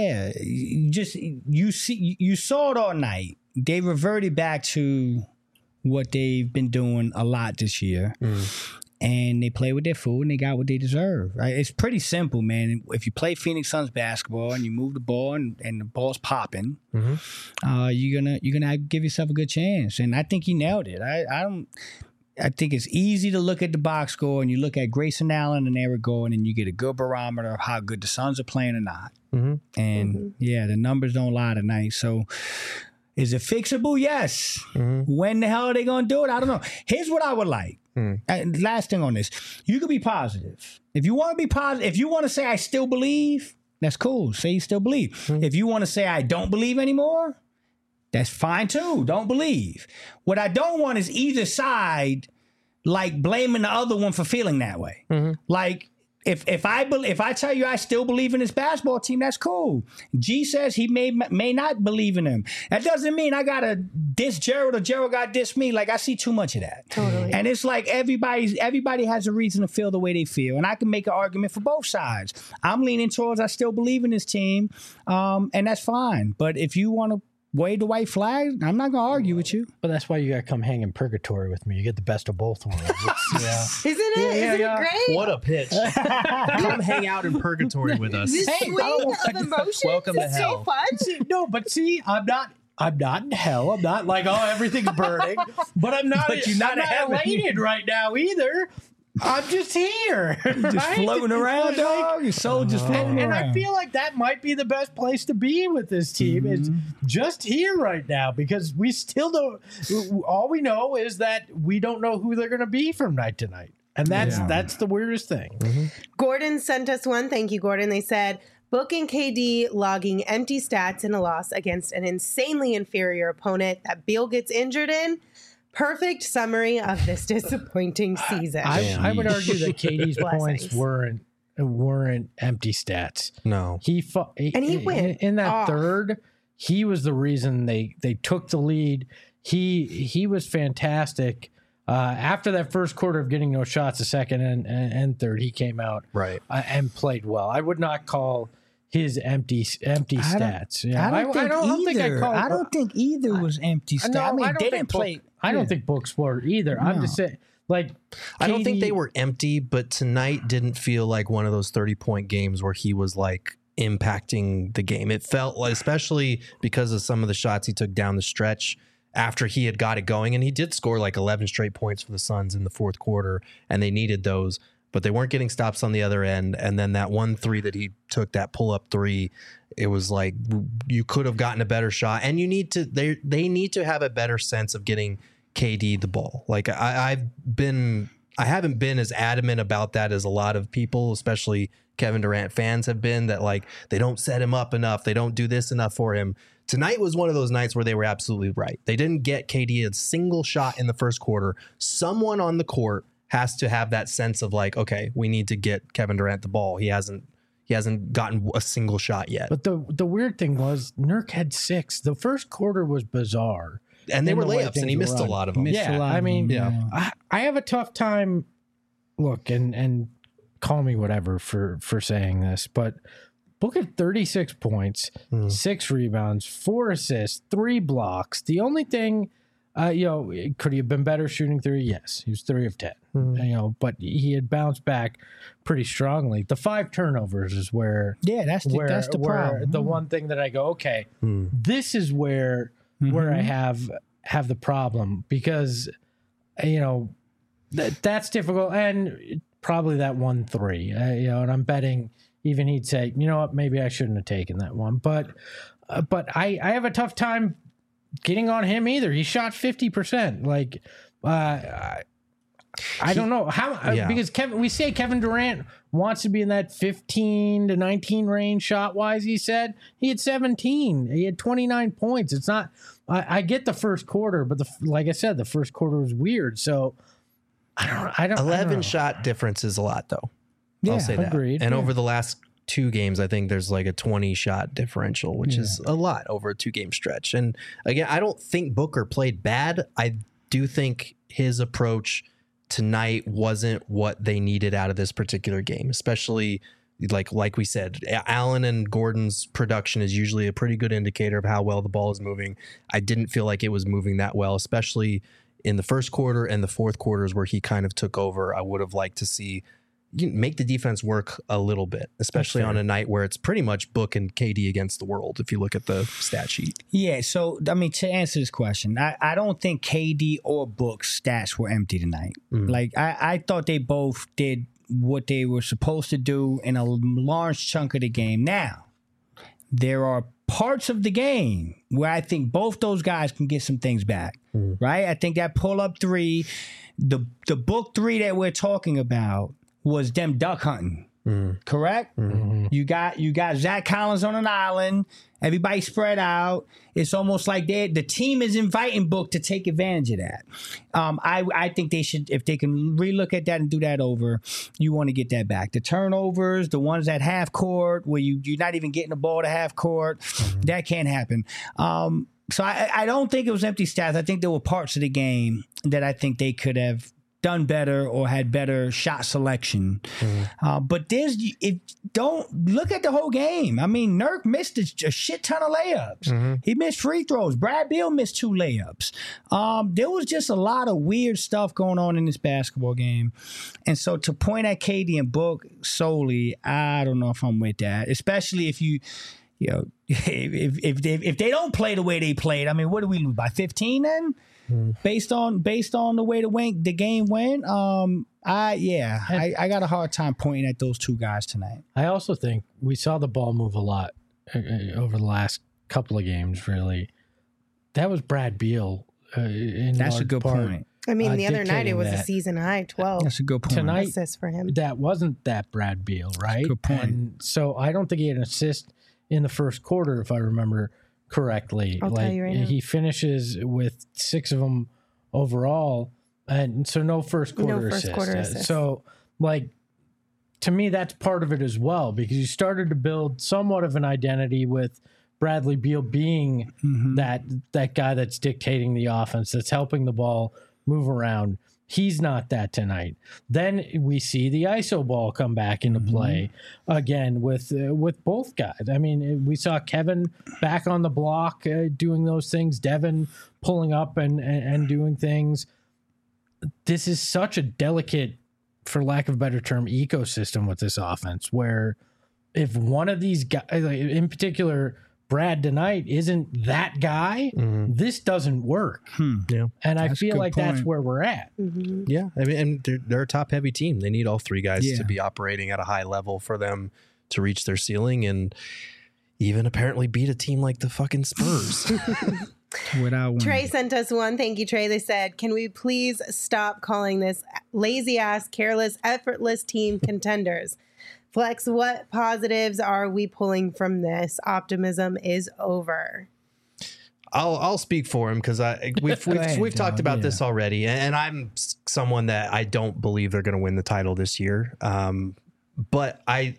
you saw it all night. They reverted back to what they've been doing a lot this year. And they play with their food and they got what they deserve. Right? It's pretty simple, man. If you play Phoenix Suns basketball and you move the ball and the ball's popping, you're gonna give yourself a good chance. And I think he nailed it. I think it's easy to look at the box score and you look at Grayson Allen and Eric Gordon and you get a good barometer of how good the Suns are playing or not. And the numbers don't lie tonight. So is it fixable? Yes. When the hell are they gonna do it? I don't know. Here's what I would like. Last thing on this, you could be positive. If you want to be positive, if you want to say I still believe, that's cool. Say you still believe. If you want to say I don't believe anymore, that's fine too. Don't believe. What I don't want is either side like blaming the other one for feeling that way. Like if I tell you I still believe in this basketball team, that's cool. G says he may not believe in him. That doesn't mean I gotta diss Gerald or Gerald got diss me. Like I see too much of that. Totally. And it's like everybody has a reason to feel the way they feel, and I can make an argument for both sides. I'm leaning towards I still believe in this team, and that's fine. But if you want to wave the white flag, I'm not gonna argue with you. But that's why you gotta come hang in purgatory with me. You get the best of both worlds. Isn't it great? What a pitch. Come hang out in purgatory with us. This swing of emotions Welcome to is hell. so fun. See, I'm not in hell. I'm not like, oh, everything's burning. But I'm not, But you're not I'm not elated right now either. I'm just here. Just floating around, dog. Your soul just floating And around. I feel like that might be the best place to be with this team. It's just here right now because we still don't. All we know is that we don't know who they're going to be from night to night. And that's the weirdest thing. Gordon sent us one. Thank you, Gordon. They said, Book and KD logging empty stats in a loss against an insanely inferior opponent that Beal gets injured in. Perfect summary of this disappointing season. I would argue that KD's Blessings. points weren't empty stats. No. And he went in that off. third. He was the reason they took the lead. He was fantastic. After that first quarter of getting no shots, the second and third, he came out and played well. I would not call his empty stats. I don't think either was empty stats. No, I mean, they didn't Book- play. I don't think Book's were either. I'm just saying, like, I don't think KD they were empty, but tonight didn't feel like one of those 30-point games where he was like impacting the game. It felt like, especially because of some of the shots he took down the stretch after he had got it going, and he did score like 11 straight points for the Suns in the fourth quarter, and they needed those, but they weren't getting stops on the other end. And then that 1-3 that he took, that pull-up 3, it was like you could have gotten a better shot, and you need to. They need to have a better sense of getting KD the ball. Like I haven't been as adamant about that as a lot of people, especially Kevin Durant fans have been, that like they don't set him up enough, they don't do this enough for him. Tonight was one of those nights where they were absolutely right. They didn't get KD a single shot in the first quarter. Someone on the court has to have that sense of like, okay, we need to get Kevin Durant the ball. He hasn't gotten a single shot yet. But the weird thing was Nurk had 6. The first quarter was bizarre. And they in were the way layups, and he things missed were a lot of run. them. Yeah, I mean, I have a tough time. Look, and call me whatever for saying this, but Book had 36 points, 6 rebounds, 4 assists, 3 blocks. The only thing, could he have been better shooting 3? Yes, he was 3 of 10. But he had bounced back pretty strongly. The 5 turnovers is where that's the problem. The one thing that I go, okay, this is where I have have the problem because, that's difficult. And probably that 1-3, and I'm betting even he'd say, you know what, maybe I shouldn't have taken that one. But I have a tough time getting on him either. He shot 50%. Like, I don't know how, because we say Kevin Durant wants to be in that 15 to 19 range shot wise. He said he had 17. He had 29 points. It's not, I get the first quarter, but like I said, the first quarter was weird. So I don't 11 shot difference is a lot though. Yeah, I'll say that. agreed. And Yeah. over the last 2 games, I think there's like a 20 shot differential, which is a lot over a 2-game stretch. And again, I don't think Booker played bad. I do think his approach tonight wasn't what they needed out of this particular game, especially like we said, Allen and Gordon's production is usually a pretty good indicator of how well the ball is moving. I didn't feel like it was moving that well, especially in the first quarter and the fourth quarters where he kind of took over. I would have liked to see make the defense work a little bit, especially on a night where it's pretty much Book and KD against the world, if you look at the stat sheet. Yeah, so, I mean, to answer this question, I don't think KD or Book's stats were empty tonight. Like, I thought they both did what they were supposed to do in a large chunk of the game. Now, there are parts of the game where I think both those guys can get some things back, right? I think that pull-up 3, the Book 3 that we're talking about, was them duck hunting, correct? You got Zach Collins on an island. Everybody spread out. It's almost like the team is inviting Book to take advantage of that. I think they should, if they can relook at that and do that over, you want to get that back. The turnovers, the ones at half court where you're not even getting the ball to half court, that can't happen. So I don't think it was empty stats. I think there were parts of the game that I think they could have done better or had better shot selection. But don't look at the whole game. I mean, Nurk missed a shit ton of layups. He missed free throws. Brad Beal missed 2 layups. There was just a lot of weird stuff going on in this basketball game. And so to point at KD and Book solely, I don't know if I'm with that, especially if if they don't play the way they played. I mean, what do we lose by 15 then? Based on the way the game went, I got a hard time pointing at those 2 guys tonight. I also think we saw the ball move a lot over the last couple of games, really. That was Brad Beal. That's a good point. I mean, the other night it was that. a season high 12. That's a good point. Tonight, assists for him. That wasn't that Brad Beal, right? Good point. And so I don't think he had an assist in the first quarter, if I remember correctly. I'll tell you right now. He finishes with 6 of them overall, and so no first quarter assist. So, to me, that's part of it as well, because you started to build somewhat of an identity with Bradley Beal being that guy that's dictating the offense, that's helping the ball move around. He's not that tonight. Then we see the ISO ball come back into play again with both guys. I mean, we saw Kevin back on the block doing those things, Devin pulling up and doing things. This is such a delicate, for lack of a better term, ecosystem with this offense, where if one of these guys, in particular Brad tonight, isn't that guy, this doesn't work. Yeah. And I That's a feel good like that's point. where we're at. Yeah. I mean, and they're a top heavy team. They need all 3 guys to be operating at a high level for them to reach their ceiling and even apparently beat a team like the fucking Spurs. Without winning. Trey sent us one. Thank you, Trey. They said, can we please stop calling this lazy ass, careless, effortless team contenders? Flex, what positives are we pulling from this? Optimism is over. I'll speak for him because we've talked about this already, and I'm someone that I don't believe they're going to win the title this year. But I'm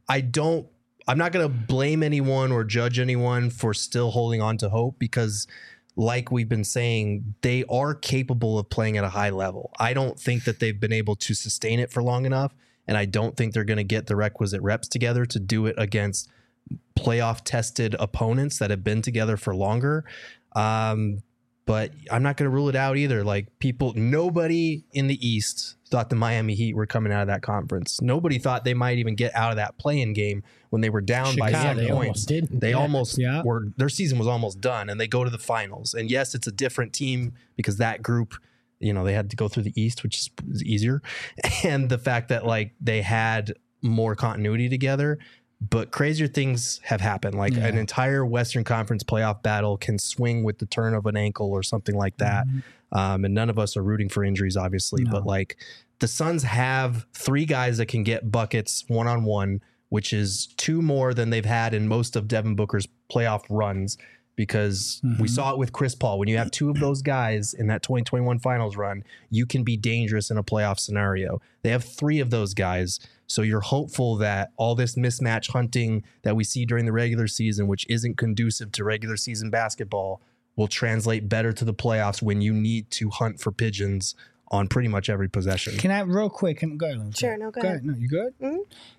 not going to blame anyone or judge anyone for still holding on to hope, because like we've been saying, they are capable of playing at a high level. I don't think that they've been able to sustain it for long enough, and I don't think they're going to get the requisite reps together to do it against playoff tested opponents that have been together for longer. But I'm not going to rule it out either. Like nobody in the East thought the Miami Heat were coming out of that conference. Nobody thought they might even get out of that play-in game when they were down by 7 they points. almost didn't. They Yeah. almost were. Their season was almost done, and they go to the finals. And yes, it's a different team because that group, they had to go through the East, which is easier, and the fact that like they had more continuity together. But crazier things have happened. Like an entire Western Conference playoff battle can swing with the turn of an ankle or something like that. And none of us are rooting for injuries, obviously. But like the Suns have 3 guys that can get buckets one-on-one, which is 2 more than they've had in most of Devin Booker's playoff runs. Because we saw it with Chris Paul. When you have 2 of those guys in that 2021 finals run, you can be dangerous in a playoff scenario. They have 3 of those guys. So you're hopeful that all this mismatch hunting that we see during the regular season, which isn't conducive to regular season basketball, will translate better to the playoffs when you need to hunt for pigeons on pretty much every possession. Can I real quick? Go ahead. Sure, no, go ahead. No, you good? Mm-hmm.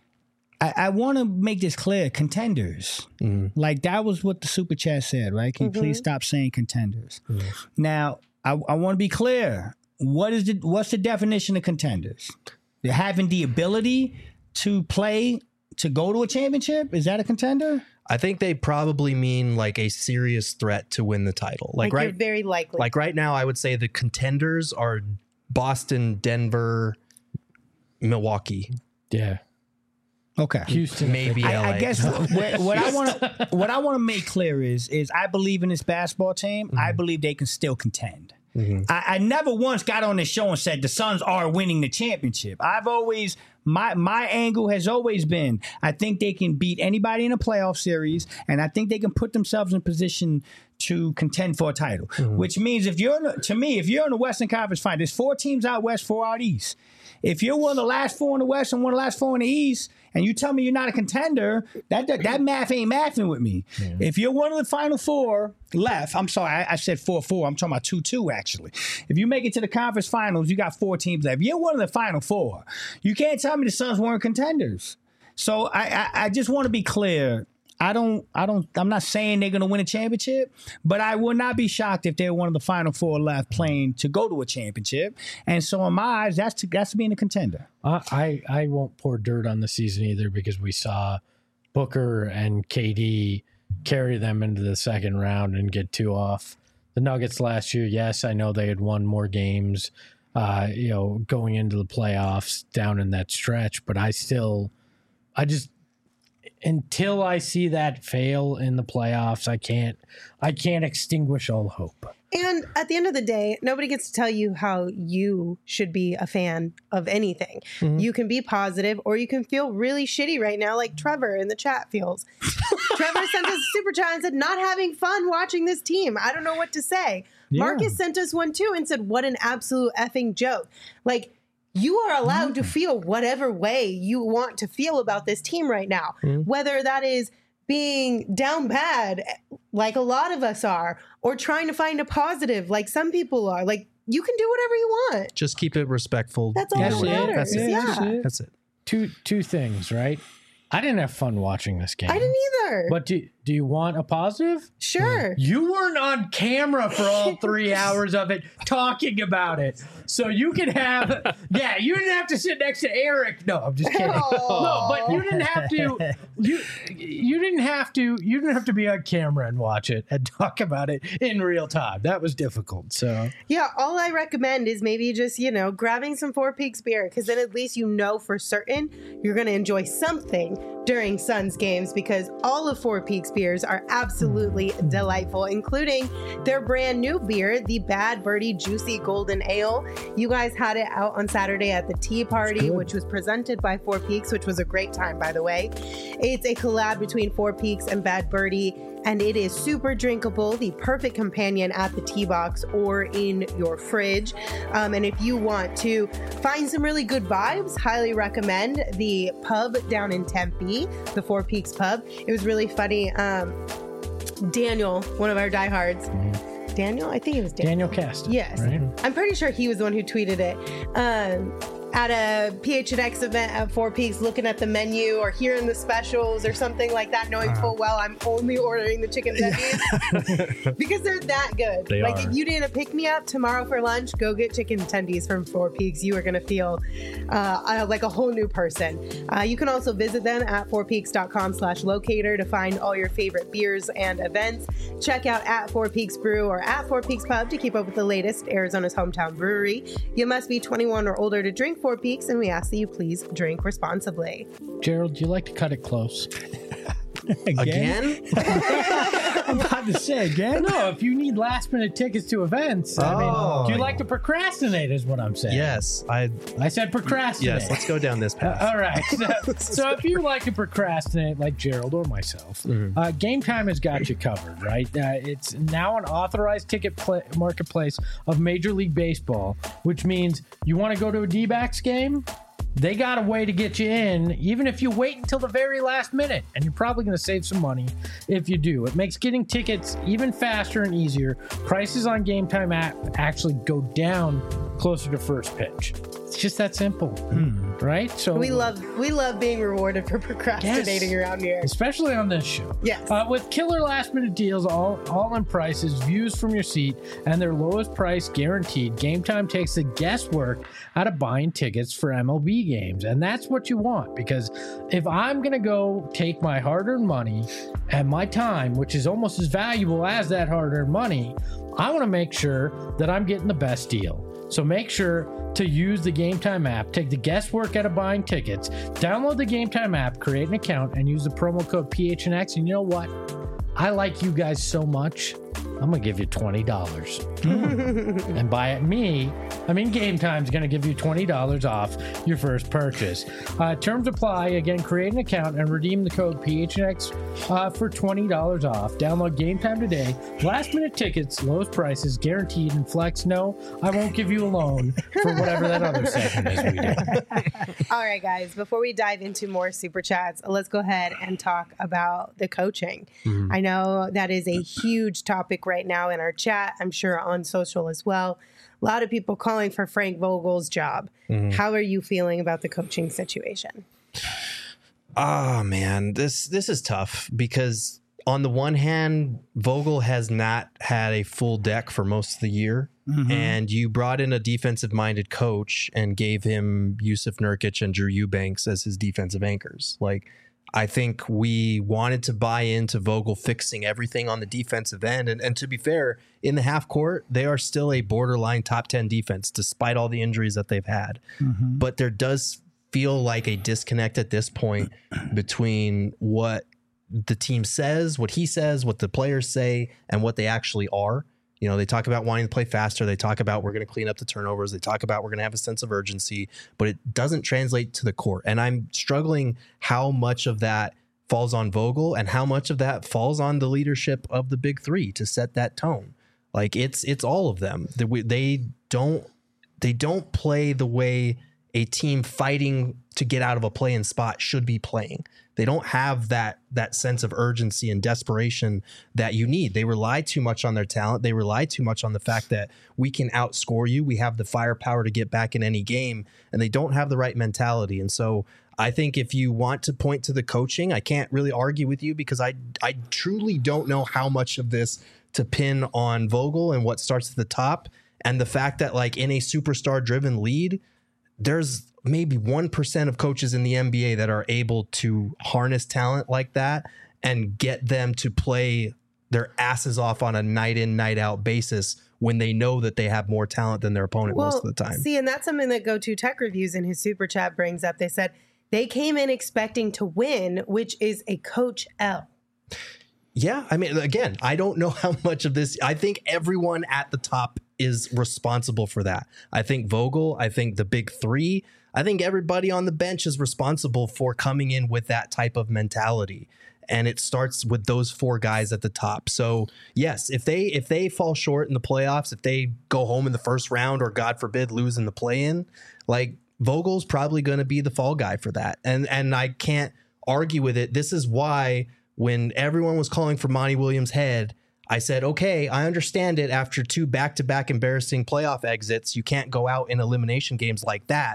I want to make this clear. Contenders. Like that was what the super chat said, right? Can you please stop saying contenders? Now, I want to be clear. What's the definition of contenders? They're having the ability to play to go to a championship. Is that a contender? I think they probably mean like a serious threat to win the title. Like you're very likely. Like right now, I would say the contenders are Boston, Denver, Milwaukee. Yeah. Okay. Houston. Maybe LA. I guess what I want to make clear is I believe in this basketball team. I believe they can still contend. I never once got on this show and said the Suns are winning the championship. I've always my angle has always been I think they can beat anybody in a playoff series, and I think they can put themselves in position to contend for a title. Which means if you're in the Western Conference Final, there's 4 teams out west, 4 out east. If you're one of the last 4 in the West and one of the last 4 in the East, and you tell me you're not a contender, that math ain't mathing with me. Yeah. If you're one of the final 4 left, I'm sorry, I said 4-4. I'm talking about 2-2, actually. If you make it to the conference finals, you got 4 teams left. If you're one of the final 4, you can't tell me the Suns weren't contenders. So I just want to be clear. I'm not saying they're going to win a championship, but I would not be shocked if they're one of the final 4 left playing to go to a championship. And so in my eyes, that's being a contender. I won't pour dirt on the season either because we saw Booker and KD carry them into the second round and get 2 off. The Nuggets last year, yes, I know they had won more games, going into the playoffs down in that stretch, but until I see that fail in the playoffs, I can't extinguish all hope. And at the end of the day, nobody gets to tell you how you should be a fan of anything. You can be positive or you can feel really shitty right now, like Trevor in the chat feels. Trevor sent us a super chat and said, not having fun watching this team. I don't know what to say. Yeah. Marcus sent us one too and said, what an absolute effing joke. Like, you are allowed to feel whatever way you want to feel about this team right now, whether that is being down bad, like a lot of us are, or trying to find a positive, like some people are. Like, you can do whatever you want. Just keep it respectful. That's all that matters. That's it. Two things, right? I didn't have fun watching this game. I didn't either. But do you want a positive? Sure. You weren't on camera for all 3 hours of it talking about it. So you can have, you didn't have to sit next to Eric. No, I'm just kidding. No, but you didn't have to, you didn't have to be on camera and watch it and talk about it in real time. That was difficult. So yeah, all I recommend is maybe just, grabbing some Four Peaks beer, because then at least for certain you're going to enjoy something during Suns games, because all of Four Peaks beers are absolutely delightful, including their brand new beer, the Bad Birdie Juicy Golden Ale. You guys had it out on Saturday at the tea party, which was presented by Four Peaks, which was a great time, by the way. It's a collab between Four Peaks and Bad Birdie, and it is super drinkable, the perfect companion at the tea box or in your fridge. And if you want to find some really good vibes, highly recommend the pub down in Tempe, the Four Peaks pub. It was really funny. Daniel, one of our diehards, Daniel? I think it was Daniel. Daniel Cast. Yes. Right? I'm pretty sure he was the one who tweeted it. at a PHNX event at Four Peaks looking at the menu or hearing the specials or something like that, knowing full well I'm only ordering the chicken tendies because they're that good. They like are. if you didn't pick me up tomorrow for lunch, go get chicken tendies from Four Peaks. You are going to feel like a whole new person. You can also visit them at fourpeaks.com/locator to find all your favorite beers and events. Check out at Four Peaks Brew or at Four Peaks Pub to keep up with the latest Arizona's hometown brewery. You must be 21 or older to drink Four Peaks, and we ask that you please drink responsibly. Gerald, do you like to cut it close? Again? I'm about to say again. No, if you need last minute tickets to events, I mean, do you like to procrastinate is what I'm saying. Yes, I said procrastinate. yes. Let's go down this path. All right. So if you like to procrastinate like Gerald or myself, Game Time has got you covered, right? It's now an authorized ticket marketplace of Major League Baseball, which means you want to go to a D-backs game? They got a way to get you in, even if you wait until the very last minute. And you're probably going to save some money if you do. It makes getting tickets even faster and easier. Prices on Game Time app actually go down closer to first pitch. It's just that simple, right? So We love being rewarded for procrastinating around here. especially on this show. Yes. With killer last minute deals, all in prices, views from your seat, and their lowest price guaranteed, Game Time takes the guesswork out of buying tickets for MLB games. And that's what you want, because if I'm going to go take my hard-earned money and my time, which is almost as valuable as that hard-earned money, I want to make sure that I'm getting the best deal. So make sure to use the Game Time app, take the guesswork out of buying tickets, download the Game Time app, create an account, and use the promo code PHNX. And you know what? I like you guys so much, I'm going to give you $20. And by me, I mean Game Time's going to give you $20 off your first purchase. Terms apply. Again, create an account and redeem the code PHNX for $20 off. Download Game Time today. Last minute tickets, lowest prices, guaranteed, and flex. No, I won't give you a loan for whatever that other segment is we do. All right, guys, before we dive into more super chats, let's go ahead and talk about the coaching. I know that is a huge topic right now in our chat. I'm sure on social as well. A lot of people calling for Frank Vogel's job. How are you feeling about the coaching situation? Oh man, this is tough because on the one hand, Vogel has not had a full deck for most of the year. And you brought in a defensive-minded coach and gave him Yusuf Nurkic and Drew Eubanks as his defensive anchors. Like, I think we wanted to buy into Vogel fixing everything on the defensive end. And to be fair, in the half court, they are still a borderline top 10 defense, despite all the injuries that they've had. But there does feel like a disconnect at this point between what the team says, what he says, what the players say, and what they actually are. You know, they talk about wanting to play faster. They talk about we're going to clean up the turnovers. They talk about we're going to have a sense of urgency, but it doesn't translate to the court. And I'm struggling how much of that falls on Vogel and how much of that falls on the leadership of the big three to set that tone. Like it's all of them. They don't play the way a team fighting to get out of a play-in spot should be playing. They don't have that sense of urgency and desperation that you need. They rely too much on their talent. They rely too much on the fact that we can outscore you. We have the firepower to get back in any game, and they don't have the right mentality. And so I think if you want to point to the coaching, I can't really argue with you because I truly don't know how much of this to pin on Vogel and what starts at the top. And the fact that like in a superstar driven lead, there's maybe 1% of coaches in the NBA that are able to harness talent like that and get them to play their asses off on a night in, night out basis when they know that they have more talent than their opponent most of the time. See, and that's something that Go To Tech Reviews in his super chat brings up. They said they came in expecting to win, which is a coach L. Yeah, I mean, again, I don't know how much of this. I think everyone at the top is responsible for that. I think Vogel, I think the big three, I think everybody on the bench is responsible for coming in with that type of mentality. And it starts with those four guys at the top. So yes, if they fall short in the playoffs, if they go home in the first round or God forbid lose in the play-in, like Vogel's probably going to be the fall guy for that. And I can't argue with it. This is why when everyone was calling for Monty Williams' head, I said, okay, I understand it. After two back-to-back embarrassing playoff exits, you can't go out in elimination games like that.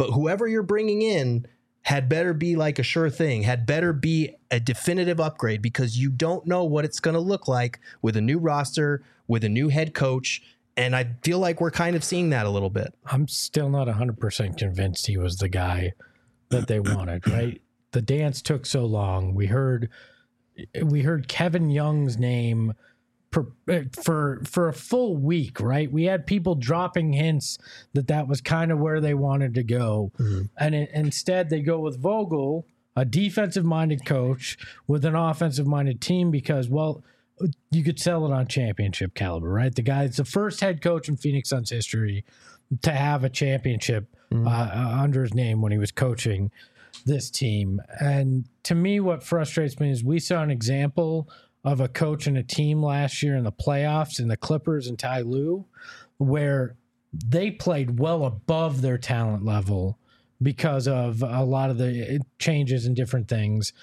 But whoever you're bringing in had better be like a sure thing, had better be a definitive upgrade, because you don't know what it's going to look like with a new roster, with a new head coach. And I feel like we're kind of seeing that a little bit. I'm still not 100% convinced he was the guy that they wanted, right? The dance took so long. We heard Kevin Young's name for a full week, right? We had people dropping hints that was kind of where they wanted to go. Mm-hmm. And instead they go with Vogel, a defensive-minded coach with an offensive-minded team because, well, you could sell it on championship caliber, right? The guy's the first head coach in Phoenix Suns history to have a championship under his name when he was coaching this team. And to me, what frustrates me is we saw an example of a coach and a team last year in the playoffs in the Clippers and Ty Lue, where they played well above their talent level because of a lot of the changes and different things.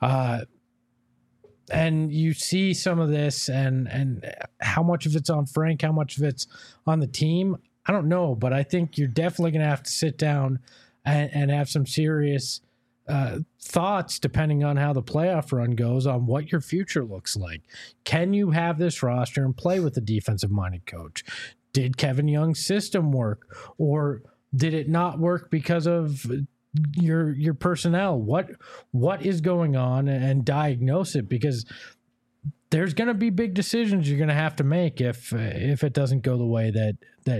And you see some of this and how much of it's on Frank, how much of it's on the team, I don't know. But I think you're definitely going to have to sit down and have some serious thoughts, depending on how the playoff run goes, on what your future looks like. Can you have this roster and play with a defensive-minded coach? Did Kevin Young's system work, or did it not work because of your personnel? What is going on, and diagnose it, because there's going to be big decisions you're going to have to make if it doesn't go the way that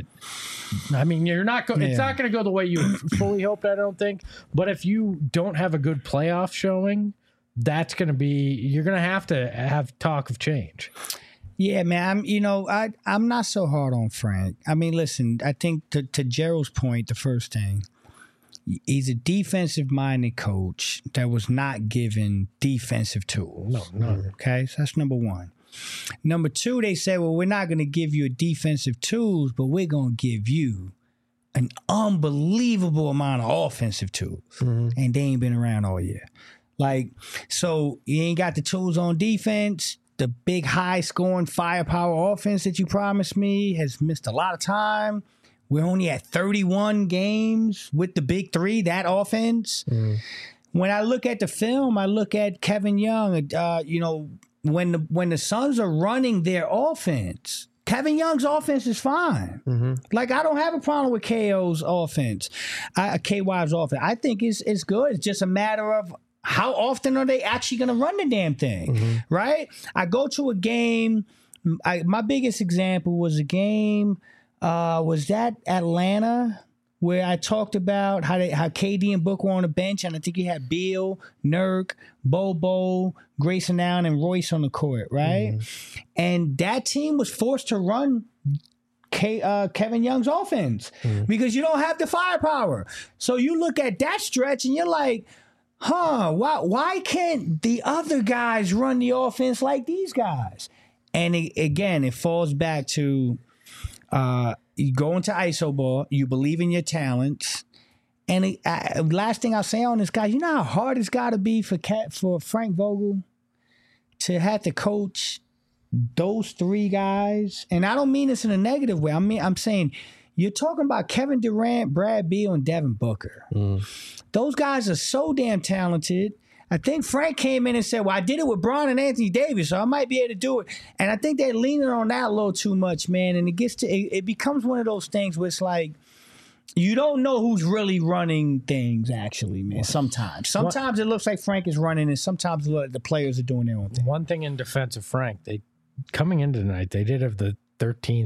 I mean, you're not going. It's not going to go the way you fully hoped, I don't think. But if you don't have a good playoff showing, that's going to be, you're going to have talk of change. Yeah, man. I'm not so hard on Frank. I mean, listen, I think to Gerald's point, the first thing, he's a defensive-minded coach that was not given defensive tools. No. Okay, so that's number one. Number two, they said, well, we're not going to give you defensive tools, but we're going to give you an unbelievable amount of offensive tools. Mm-hmm. And they ain't been around all year. Like, so you ain't got the tools on defense. The big high-scoring firepower offense that you promised me has missed a lot of time. We're only at 31 games with the big three, that offense. Mm. When I look at the film, I look at Kevin Young, when the Suns are running their offense, Kevin Young's offense is fine. Mm-hmm. Like, I don't have a problem with KO's offense, KY's offense. I think it's good. It's just a matter of how often are they actually going to run the damn thing, right? I go to a game. My biggest example was a game. Was that Atlanta, where I talked about how KD and Book were on the bench, and I think you had Beal, Nurk, Bobo, Grayson Allen, and Royce on the court, right? Mm-hmm. And that team was forced to run Kevin Young's offense because you don't have the firepower. So you look at that stretch and you're like, why can't the other guys run the offense like these guys? And it falls back to you go into ISO ball, you believe in your talents. And last thing I'll say on this guy, you know how hard it's got to be for Frank Vogel to have to coach those three guys? And I don't mean this in a negative way. I'm saying you're talking about Kevin Durant, Brad Beal, and Devin Booker. Those guys are so damn talented. I think Frank came in and said, well, I did it with Bron and Anthony Davis, so I might be able to do it. And I think they're leaning on that a little too much, man. And it becomes one of those things where it's like, you don't know who's really running things, actually, man, sometimes. Sometimes it looks like Frank is running, and sometimes the players are doing their own thing. One thing in defense of Frank, coming into tonight, they did have the 13th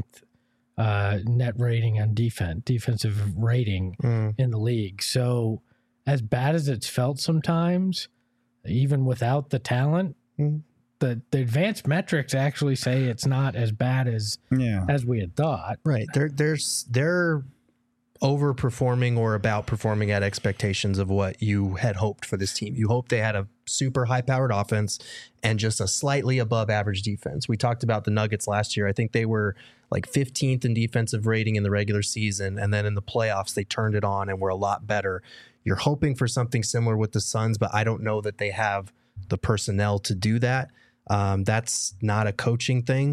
net rating on defensive rating in the league. So as bad as it's felt sometimes, even without the talent, the advanced metrics actually say it's not as bad as we had thought. Right. They're overperforming or about performing at expectations of what you had hoped for this team. You hoped they had a super high-powered offense and just a slightly above average defense. We talked about the Nuggets last year. I think they were like 15th in defensive rating in the regular season, and then in the playoffs they turned it on and were a lot better. You're hoping for something similar with the Suns, but I don't know that they have the personnel to do that. That's not a coaching thing.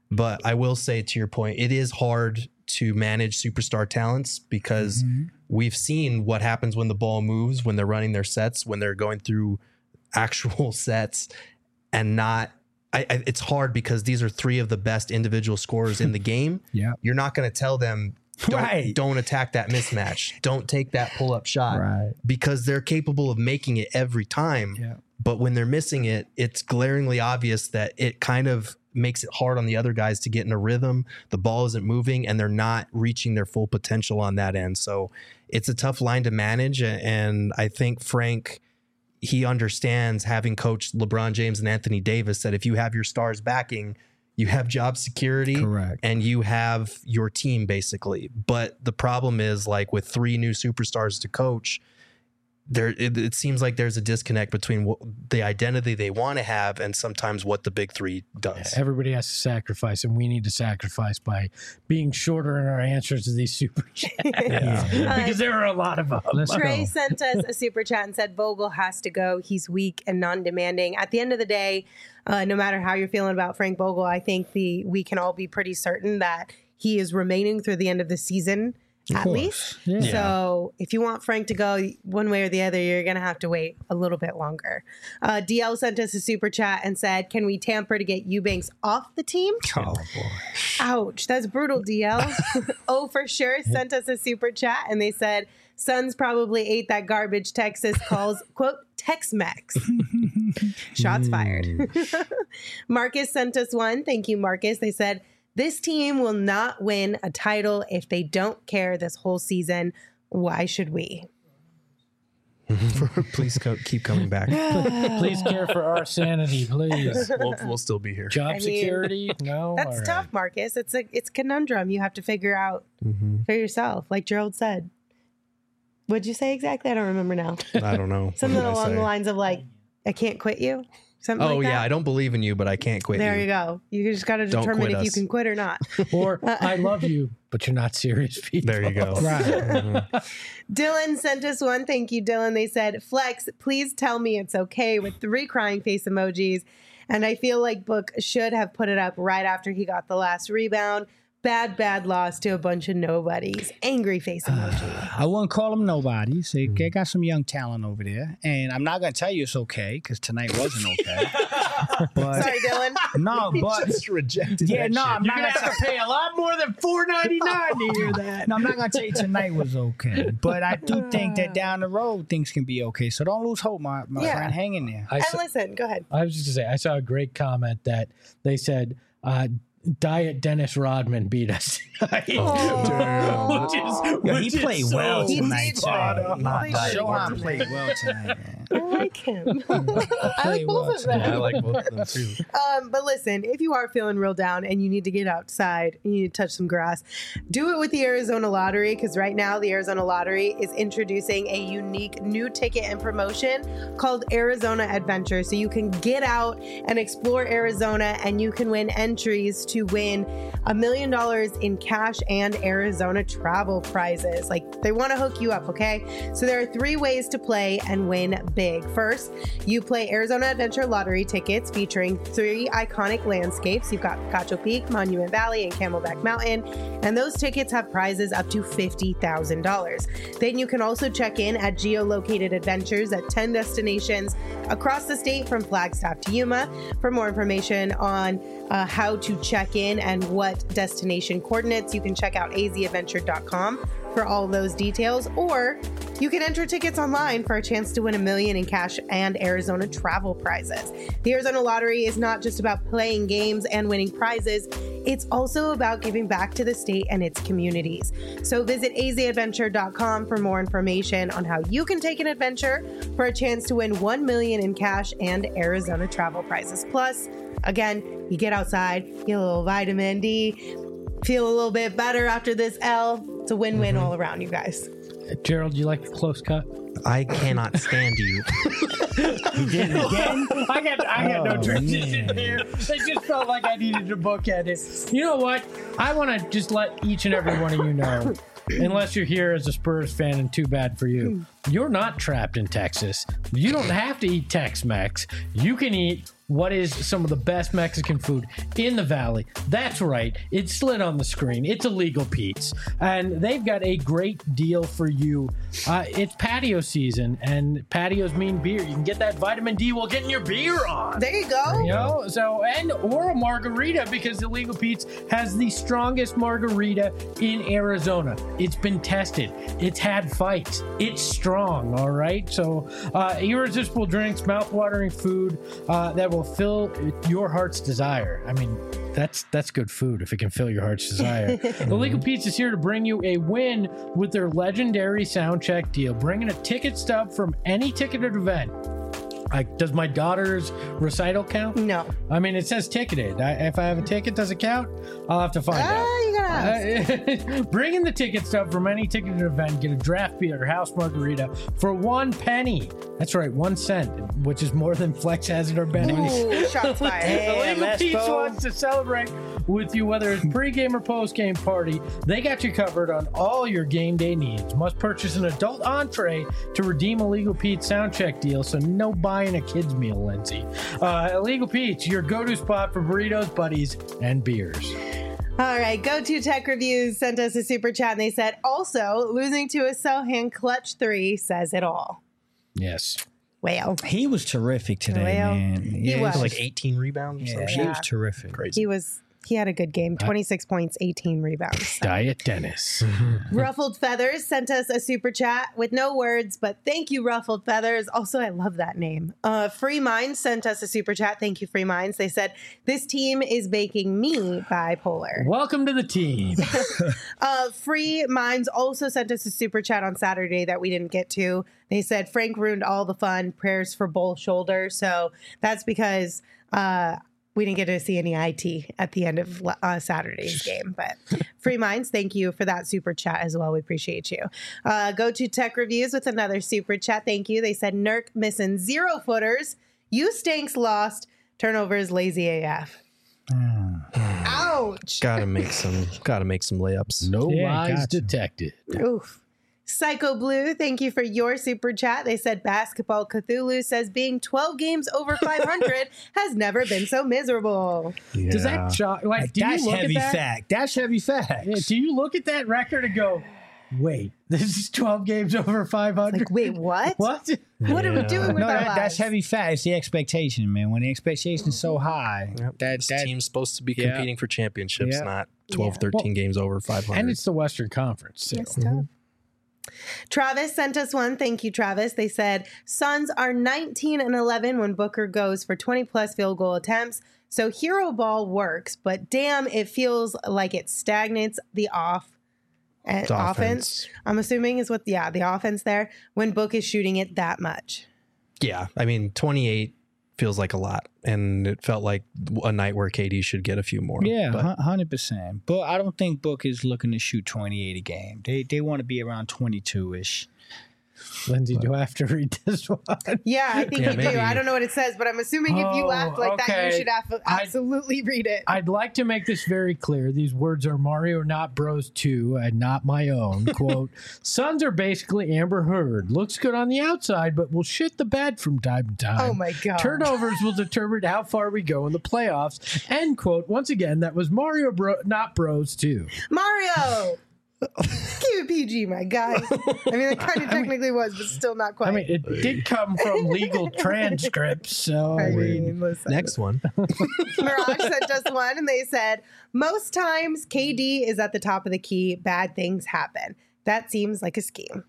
But I will say, to your point, it is hard to manage superstar talents because we've seen what happens when the ball moves, when they're running their sets, when they're going through actual sets, and not. It's hard because these are three of the best individual scorers in the game. Yeah. You're not going to tell them, don't attack that mismatch. Don't take that pull-up shot. Right. Because they're capable of making it every time. Yeah. But when they're missing it, it's glaringly obvious that it kind of makes it hard on the other guys to get in a rhythm. The ball isn't moving and they're not reaching their full potential on that end. So it's a tough line to manage. And I think Frank, he understands, having coached LeBron James and Anthony Davis, that if you have your stars backing, you have job security. Correct. And you have your team basically. But the problem is, like, with three new superstars to coach, it seems like there's a disconnect between what the identity they want to have and sometimes what the big three does. Everybody has to sacrifice, and we need to sacrifice by being shorter in our answers to these super chats. Because there are a lot of them. Trey sent us a super chat and said Vogel has to go. He's weak and non-demanding. At the end of the day, no matter how you're feeling about Frank Vogel, I think we can all be pretty certain that he is remaining through the end of the season. At least. Yeah. So if you want Frank to go one way or the other, you're going to have to wait a little bit longer. DL sent us a super chat and said, can we tamper to get Eubanks off the team? Oh, boy. Ouch. That's brutal, DL. Oh, for sure. Sent us a super chat and they said, Suns probably ate that garbage Texas calls, quote, Tex-Mex. Shots fired. Marcus sent us one. Thank you, Marcus. They said, this team will not win a title if they don't care this whole season. Why should we? Please keep coming back. Please care for our sanity, please. We'll still be here. Job security? No. That's All tough, right. Marcus. It's a conundrum you have to figure out for yourself, like Gerald said. What'd you say exactly? I don't remember now. I don't know. Something along the lines of like, I can't quit you. Something like that. I don't believe in you, but I can't quit There you. you go. You just got to determine if you can quit or not. Or I love you, but you're not serious people. There you go. Right. Dylan sent us one. Thank you, Dylan. They said, Flex, please tell me it's okay with 3 crying face emojis. And I feel like Book should have put it up right after he got the last rebound. Bad loss to a bunch of nobodies. Angry face emoji. I wouldn't call them nobodies. They got some young talent over there. And I'm not going to tell you it's okay because tonight wasn't okay. But, Sorry, Dylan. No, but. Just rejected Yeah, that no, shit. I'm You're not going to have to pay a lot more than $4.99 to hear that. No, I'm not going to tell you tonight was okay. But I do think that down the road, things can be okay. So don't lose hope, my friend. Hang in there. And listen, go ahead. I was just going to say, I saw a great comment that they said, Diet Dennis Rodman beat us tonight. He played well He tonight. did play. Shohan played well tonight, man. I like him. I like both of them. Yeah, I like both of them too. But listen, if you are feeling real down and you need to get outside, you need to touch some grass, do it with the Arizona Lottery, because right now the Arizona Lottery is introducing a unique new ticket and promotion called Arizona Adventure. So you can get out and explore Arizona and you can win entries to win $1 million in cash and Arizona travel prizes. Like, they want to hook you up, okay? So there are 3 ways to play and win big. First, you play Arizona Adventure Lottery tickets featuring 3 iconic landscapes. You've got Cacho Peak, Monument Valley, and Camelback Mountain, and those tickets have prizes up to $50,000. Then you can also check in at geolocated adventures at 10 destinations across the state from Flagstaff to Yuma. For more information on how to check in and what destination coordinates, you can check out azadventure.com for all those details, or you can enter tickets online for a chance to win $1 million in cash and Arizona travel prizes. The Arizona Lottery is not just about playing games and winning prizes, it's also about giving back to the state and its communities. So visit azadventure.com for more information on how you can take an adventure for a chance to win $1 million in cash and Arizona travel prizes. Plus, again, you get outside, get a little vitamin D, feel a little bit better after this L. It's a win-win all around, you guys. Gerald, you like a close cut? I cannot stand you. Again? I got no transition here. I just felt like I needed to bookend it. You know what? I want to just let each and every one of you know, unless you're here as a Spurs fan, and too bad for you, you're not trapped in Texas. You don't have to eat Tex-Mex. You can eat what is some of the best Mexican food in the Valley. That's right. It's slid on the screen. It's Illegal Pete's. And they've got a great deal for you. It's patio season, and patios mean beer. You can get that vitamin D while getting your beer on. There you go. You know, or a margarita, because Illegal Pete's has the strongest margarita in Arizona. It's been tested. It's had fights. It's strong, all right? So irresistible drinks, mouth-watering food that will fill your heart's desire. I mean, that's good food if it can fill your heart's desire. Illegal Pete's is here to bring you a win with their legendary sound check deal, bringing a ticket stub from any ticketed event. Does my daughter's recital count? No. I mean, it says ticketed. If I have a ticket, does it count? I'll have to find out. You gotta ask. Bring in the ticket stub from any ticketed event. Get a draft beer or house margarita for 1 penny. That's right, 1 cent, which is more than Flex has in our Benny's. Ooh, shots fired. Illegal Pete's wants to celebrate with you, whether it's pregame or postgame party. They got you covered on all your game day needs. Must purchase an adult entree to redeem Illegal Pete's sound check deal, so no buying a kid's meal, Lindsay. Illegal Pete's, your go-to spot for burritos, buddies, and beers. All right, Go To Tech Reviews sent us a super chat, and they said, also, losing to a Sohan clutch 3 says it all. Yes. Well, He was terrific today, Well, man. he was. Like 18 rebounds or Yeah, something. he was terrific. Crazy. he had a good game. 26 points, 18 rebounds. Diet Dennis. Ruffled Feathers sent us a super chat with no words, but thank you, Ruffled Feathers. Also, I love that name. Free Minds sent us a super chat. Thank you, Free Minds. They said, this team is making me bipolar. Welcome to the team. Free Minds also sent us a super chat on Saturday that we didn't get to. They said, Frank ruined all the fun. Prayers for both shoulders. So that's because we didn't get to see any IT at the end of Saturday's game. But Free Minds, thank you for that super chat as well. We appreciate you. Go To Tech Reviews with another super chat. Thank you. They said, Nurk missing 0 footers. You stinks lost. Turnovers lazy AF. Ouch. Gotta make some layups. No Yeah, lies gotcha. detected. Oof. Psycho Blue, thank you for your super chat. They said Basketball Cthulhu says being 12 games over 500 has never been so miserable. Does that shock? Like, do That's you look heavy at that? fact. That's heavy fact. Yeah, do you look at that record and go, wait, this is 12 games over 500? Like, wait, what? What? What are we doing with No, our that's lives? heavy fact. It's the expectation, man. When the expectation is so high, This team's supposed to be Yeah. competing for championships, Yeah. not 12, 13 games over 500. And it's the Western Conference, too. It's tough. Travis sent us one. Thank you, Travis. They said Suns are 19-11 when Booker goes for 20-plus field goal attempts. So hero ball works, but damn, it feels like it stagnates the offense. I'm assuming is what, the offense there when Book is shooting it that much. Yeah, I mean, 28 feels like a lot, and it felt like a night where KD should get a few more. yeah, but 100%. But I don't think Book is looking to shoot 28 a game. They want to be around 22-ish. Lindsay, do I have to read this one? Yeah, I think Yeah, you do. maybe. I don't know what it says, but I'm assuming if you Oh, act like that, you okay. should absolutely read it. I'd like to make this very clear. These words are Mario Not Bros 2 and not my own. Quote, Suns are basically Amber Heard. Looks good on the outside, but will shit the bed from time to time. Oh my God. Turnovers will determine how far we go in the playoffs. End quote. Once again, that was Mario Not Bros 2. Mario! Keep it PG, my guy. I mean, it kind of technically was, but still not quite. I mean, it did come from legal transcripts, so I mean, listen. next one. Mirage sent us one, and they said, most times KD is at the top of the key, bad things happen. That seems like a scheme.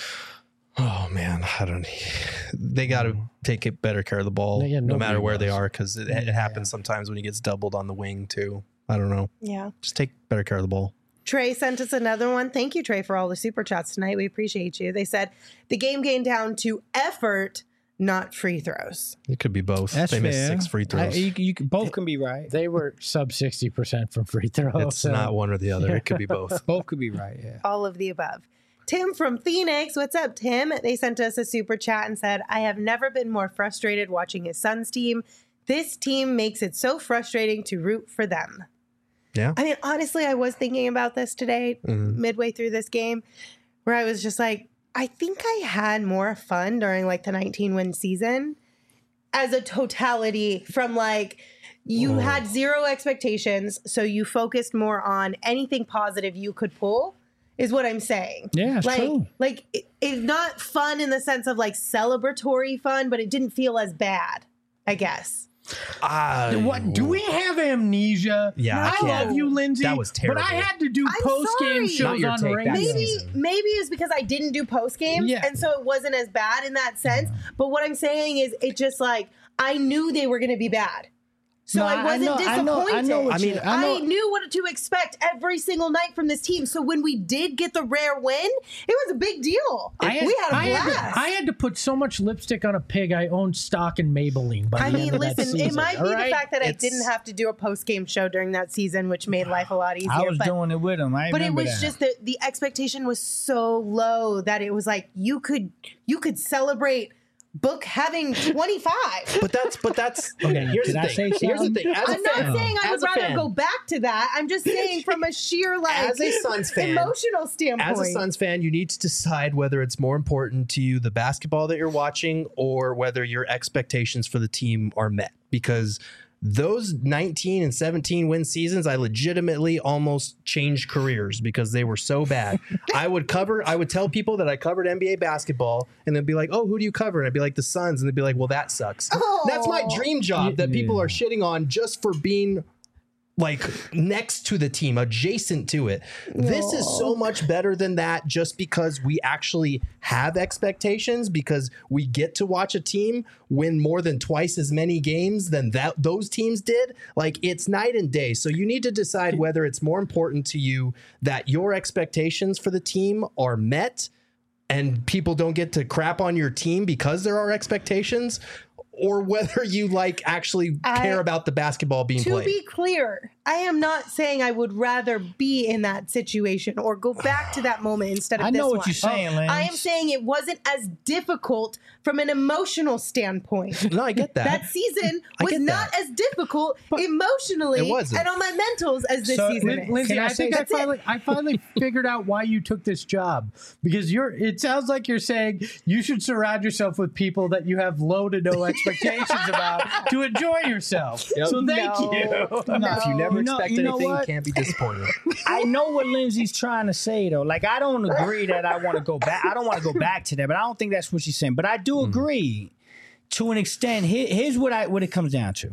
Oh man, they got to take better care of the ball, Yeah, no matter nobody where they does. are, because it happens sometimes when he gets doubled on the wing too. I don't know. Yeah. Just take better care of the ball. Trey sent us another one. Thank you, Trey, for all the super chats tonight. We appreciate you. They said the game came down to effort, not free throws. It could be both. That's they missed fair. 6 free throws. Both can be right. they were sub 60% from free throws. It's not one or the other. It could be both. Both could be right, yeah. All of the above. Tim from Phoenix, what's up, Tim? They sent us a super chat and said, I have never been more frustrated watching his Suns team. This team makes it so frustrating to root for them. Yeah. I mean, honestly, I was thinking about this today, midway through this game, where I was just like, I think I had more fun during like the 19-win season as a totality from like you had zero expectations, so you focused more on anything positive you could pull. Is what I'm saying. Yeah, it's true. Like it's not fun in the sense of like celebratory fun, but it didn't feel as bad, I guess. What do we have amnesia? Yeah, I love you, Lindsay. That was terrible. But I had to do I'm post game sorry. shows Not your on take, radio. that Maybe season. it was because I didn't do post games, Yeah. and so it wasn't as bad in that sense. But what I'm saying is, it just like I knew they were going to be bad. So No, I wasn't disappointed. I know what you- I know- I knew what to expect every single night from this team. So when we did get the rare win, it was a big deal. We had a blast. I had to put so much lipstick on a pig. I owned stock in Maybelline. By I the mean, end of that listen, season, it might all be right? the fact that I didn't have to do a post game show during that season, which made life a lot easier. I was but, doing it with him. I but it remember was that. just that the expectation was so low that it was like you could celebrate Book having 25. But that's okay. Here's Did the I thing. say Here's the something? thing. As a I'm not fan, saying I would as a rather fan, go back to that. I'm just saying from a sheer like As a Suns fan, emotional standpoint. As a Suns fan, you need to decide whether it's more important to you the basketball that you're watching or whether your expectations for the team are met. Because those 19 and 17 win seasons, I legitimately almost changed careers because they were so bad. I would tell people that I covered NBA basketball and they'd be like, oh, who do you cover? And I'd be like, the Suns. And they'd be like, well, that sucks. That's my dream job that people are shitting on just for being like next to the team, adjacent to it. This is so much better than that just because we actually have expectations, because we get to watch a team win more than twice as many games than those teams did. Like, it's night and day. So you need to decide whether it's more important to you that your expectations for the team are met and people don't get to crap on your team because there are expectations, or whether you like actually care about the basketball being played. To be clear, I am not saying I would rather be in that situation or go back to that moment instead of I this know what one. you're saying, Lance. I am saying it wasn't as difficult from an emotional standpoint. No, I get that. That season I was get not that. as difficult emotionally It wasn't. and on my mentals as this So, season is. Lindsay, Can I I think say I finally figured out why you took this job, because it sounds like you're saying you should surround yourself with people that you have low to no expectations about to enjoy yourself. Yep. So thank No. you. If you never You know- expect you know anything, you what? can't be disappointed. I know what Lindsay's trying to say though. Like, I don't agree that I want to go back. I don't want to go back to that, but I don't think that's what she's saying. But I do agree to an extent. Here's what it comes down to.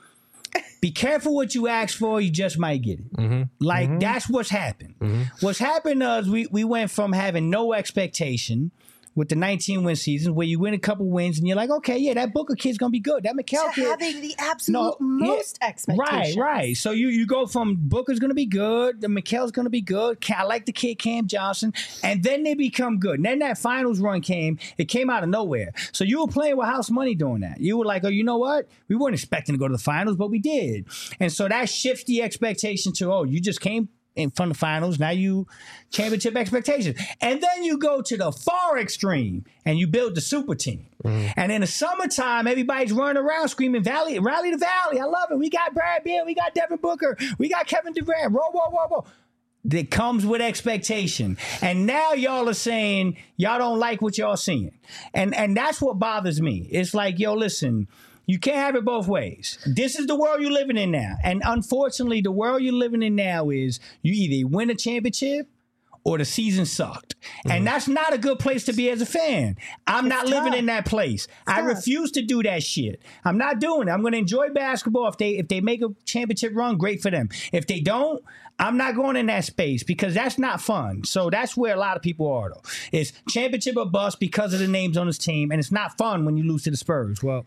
Be careful what you ask for, you just might get it. Like, that's what's happened. What's happened is we went from having no expectation with the 19-win season, where you win a couple wins and you're like, okay, yeah, that Booker kid's going to be good. That Mikal To kid. having the absolute most expectations. Right. So you go from Booker's going to be good, the Mikal's going to be good. I like the kid Cam Johnson, and then they become good. And then that finals run came. It came out of nowhere. So you were playing with house money doing that. You were like, oh, you know what? We weren't expecting to go to the finals, but we did. And so that shifts the expectation to, oh, you just came in front of the finals. Now you championship expectations. And then you go to the far extreme and you build the super team. And in the summertime, everybody's running around screaming, rally the Valley. I love it. We got Brad Beal. We got Devin Booker. We got Kevin Durant. Whoa. That comes with expectation. And now y'all are saying y'all don't like what y'all seeing. And that's what bothers me. It's like, yo, listen, you can't have it both ways. This is the world you're living in now. And unfortunately, the world you're living in now is you either win a championship or the season sucked. And that's not a good place to be as a fan. I'm not living in that place. I refuse to do that shit. I'm not doing it. I'm going to enjoy basketball. If they make a championship run, great for them. If they don't, I'm not going in that space because that's not fun. So that's where a lot of people are, though. It's championship or bust because of the names on this team. And it's not fun when you lose to the Spurs. Well,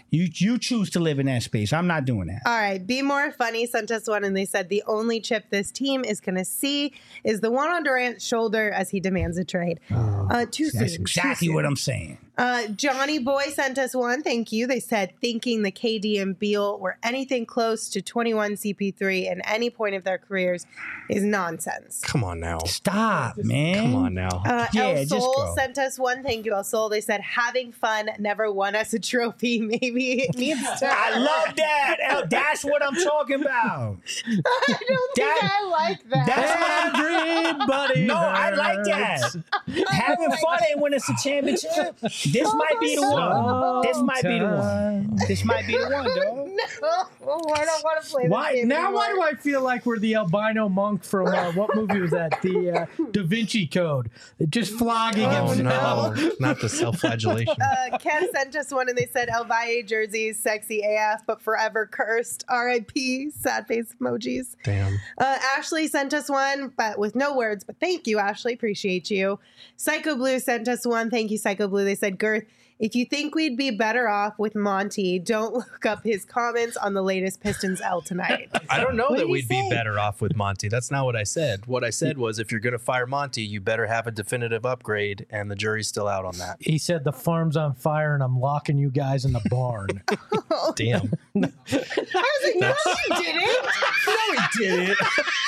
you choose to live in that space. I'm not doing that. All right. Be More Funny sent us one, and they said the only chip this team is going to see is the one on Durant's shoulder as he demands a trade. Too soon. That's exactly what I'm saying. Johnny Boy sent us one. Thank you. They said thinking the KD and Beal were anything close to 21 CP3 at any point of their careers is nonsense. Come on now. Stop, man. Come on now. Yeah, El just Sol go. sent us one. Thank you, El Sol. They said having fun never won us a trophy. Maybe it needs to. I love that. That's what I'm talking about. I don't think I like that. That's what I'm Everybody No, I like that. hurts. Having having fun ain't when it's a championship. This might be the one. This might be the one. This might be the one, dog. No, I don't want to play this Why game now? anymore. Why do I feel like we're the albino monk from what movie was that? The Da Vinci Code. Just flogging Oh himself. no, not the self-flagellation. Ken sent us one and they said El Valle jerseys, sexy AF, but forever cursed. RIP, sad face emojis. Damn. Ashley sent us one, but with no words. But thank you, Ashley. Appreciate you. Psycho Blue sent us one. Thank you, Psycho Blue. They said, Girth, if you think we'd be better off with Monty, don't look up his comments on the latest Pistons L tonight. I don't know What that did he we'd be say? better off with Monty. That's not what I said. What I said was if you're going to fire Monty, you better have a definitive upgrade, and the jury's still out on that. He said the farm's on fire and I'm locking you guys in the barn. Damn. I was like, no, he didn't. No, he didn't.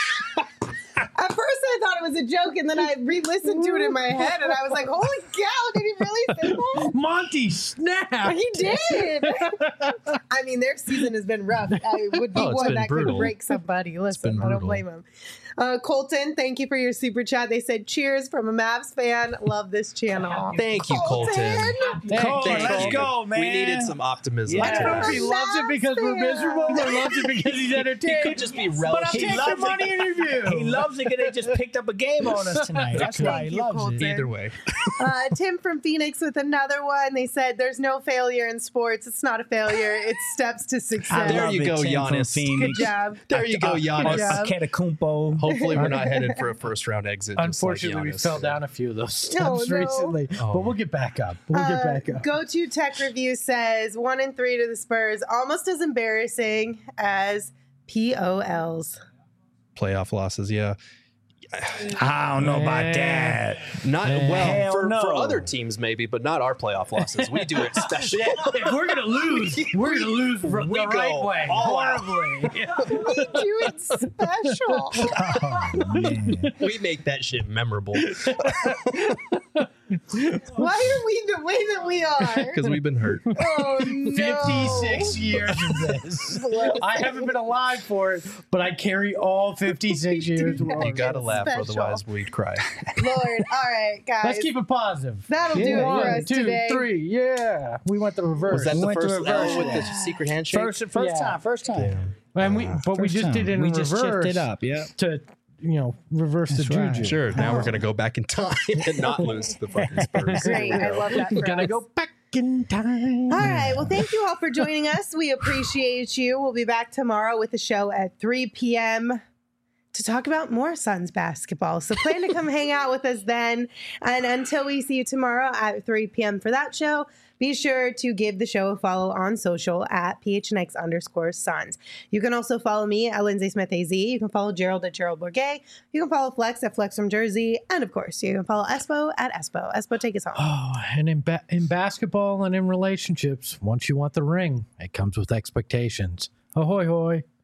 At first, I thought it was a joke, and then I re-listened to it in my head, and I was like, "Holy cow! Did he really say that?" Monty, snap! He did. I mean, their season has been rough. I would be Oh, it's one been that brutal. could break somebody. Listen, been I don't brutal. blame him. Colton, thank you for your super chat. They said, "Cheers from a Mavs fan. Love this channel." Thank you, Colton. Cole, let's you. go, man. We needed some optimism. I don't know if I'm he a loves it because we're Mavs miserable or fan. loves it because he's entertained. He could just be But I'll relative. He take the loves money it. interview. He loves it because they just picked up a game on us tonight. That's why he Thank you, loves Colton. it. Either way. Tim from Phoenix with another one. They said, "There's no failure in sports. It's not a failure. It's steps to success." There you go, Giannis. Good job. There you go, Giannis. job. Antetokounmpo. Hopefully, we're not headed for a first-round exit. just Unfortunately, like we Giannis. fell down a few of those steps Oh, no. recently, Oh. but we'll get back up. We'll get back up. Go to Tech Review says 1-3 to the Spurs, almost as embarrassing as POLs. Playoff losses, yeah. I don't know about that. Not Hell well for no. other teams maybe, but not our playoff losses. We do it special. If we're gonna lose, we're gonna lose the We right go way, all out. horribly. We do it special. Oh, man. We make that shit memorable Why are we the way that we are? because we've been hurt. Oh, no. 56 years of this. I haven't been alive for it, but I carry all 56 years. do with not. You me. gotta laugh, Special. otherwise we'd cry. Lord. All right, guys. Let's keep it positive. That'll do it for One, us 2, today. 3. Yeah, we went the reverse. Was that We the went to first reverse L with the that. secret handshake? First Yeah. time. And we First just time. did it in We reverse. just shifted up, yeah. To reverse That's the right. juju. Sure. Now we're gonna go back in time and not lose to the fucking Spurs. Great. I love that. For Gonna us. go back in time. All right. Well, thank you all for joining us. We appreciate you. We'll be back tomorrow with the show at 3 p.m. to talk about more Suns basketball. So plan to come hang out with us then. And until we see you tomorrow at 3 p.m. for that show, be sure to give the show a follow on social at PHNX_Suns. You can also follow me at Lindsay Smith AZ. You can follow Gerald at Gerald Bourget. You can follow Flex at Flex from Jersey. And of course, you can follow Espo at Espo. Espo, take us home. Oh, and in basketball and in relationships, once you want the ring, it comes with expectations. Ahoy, hoy.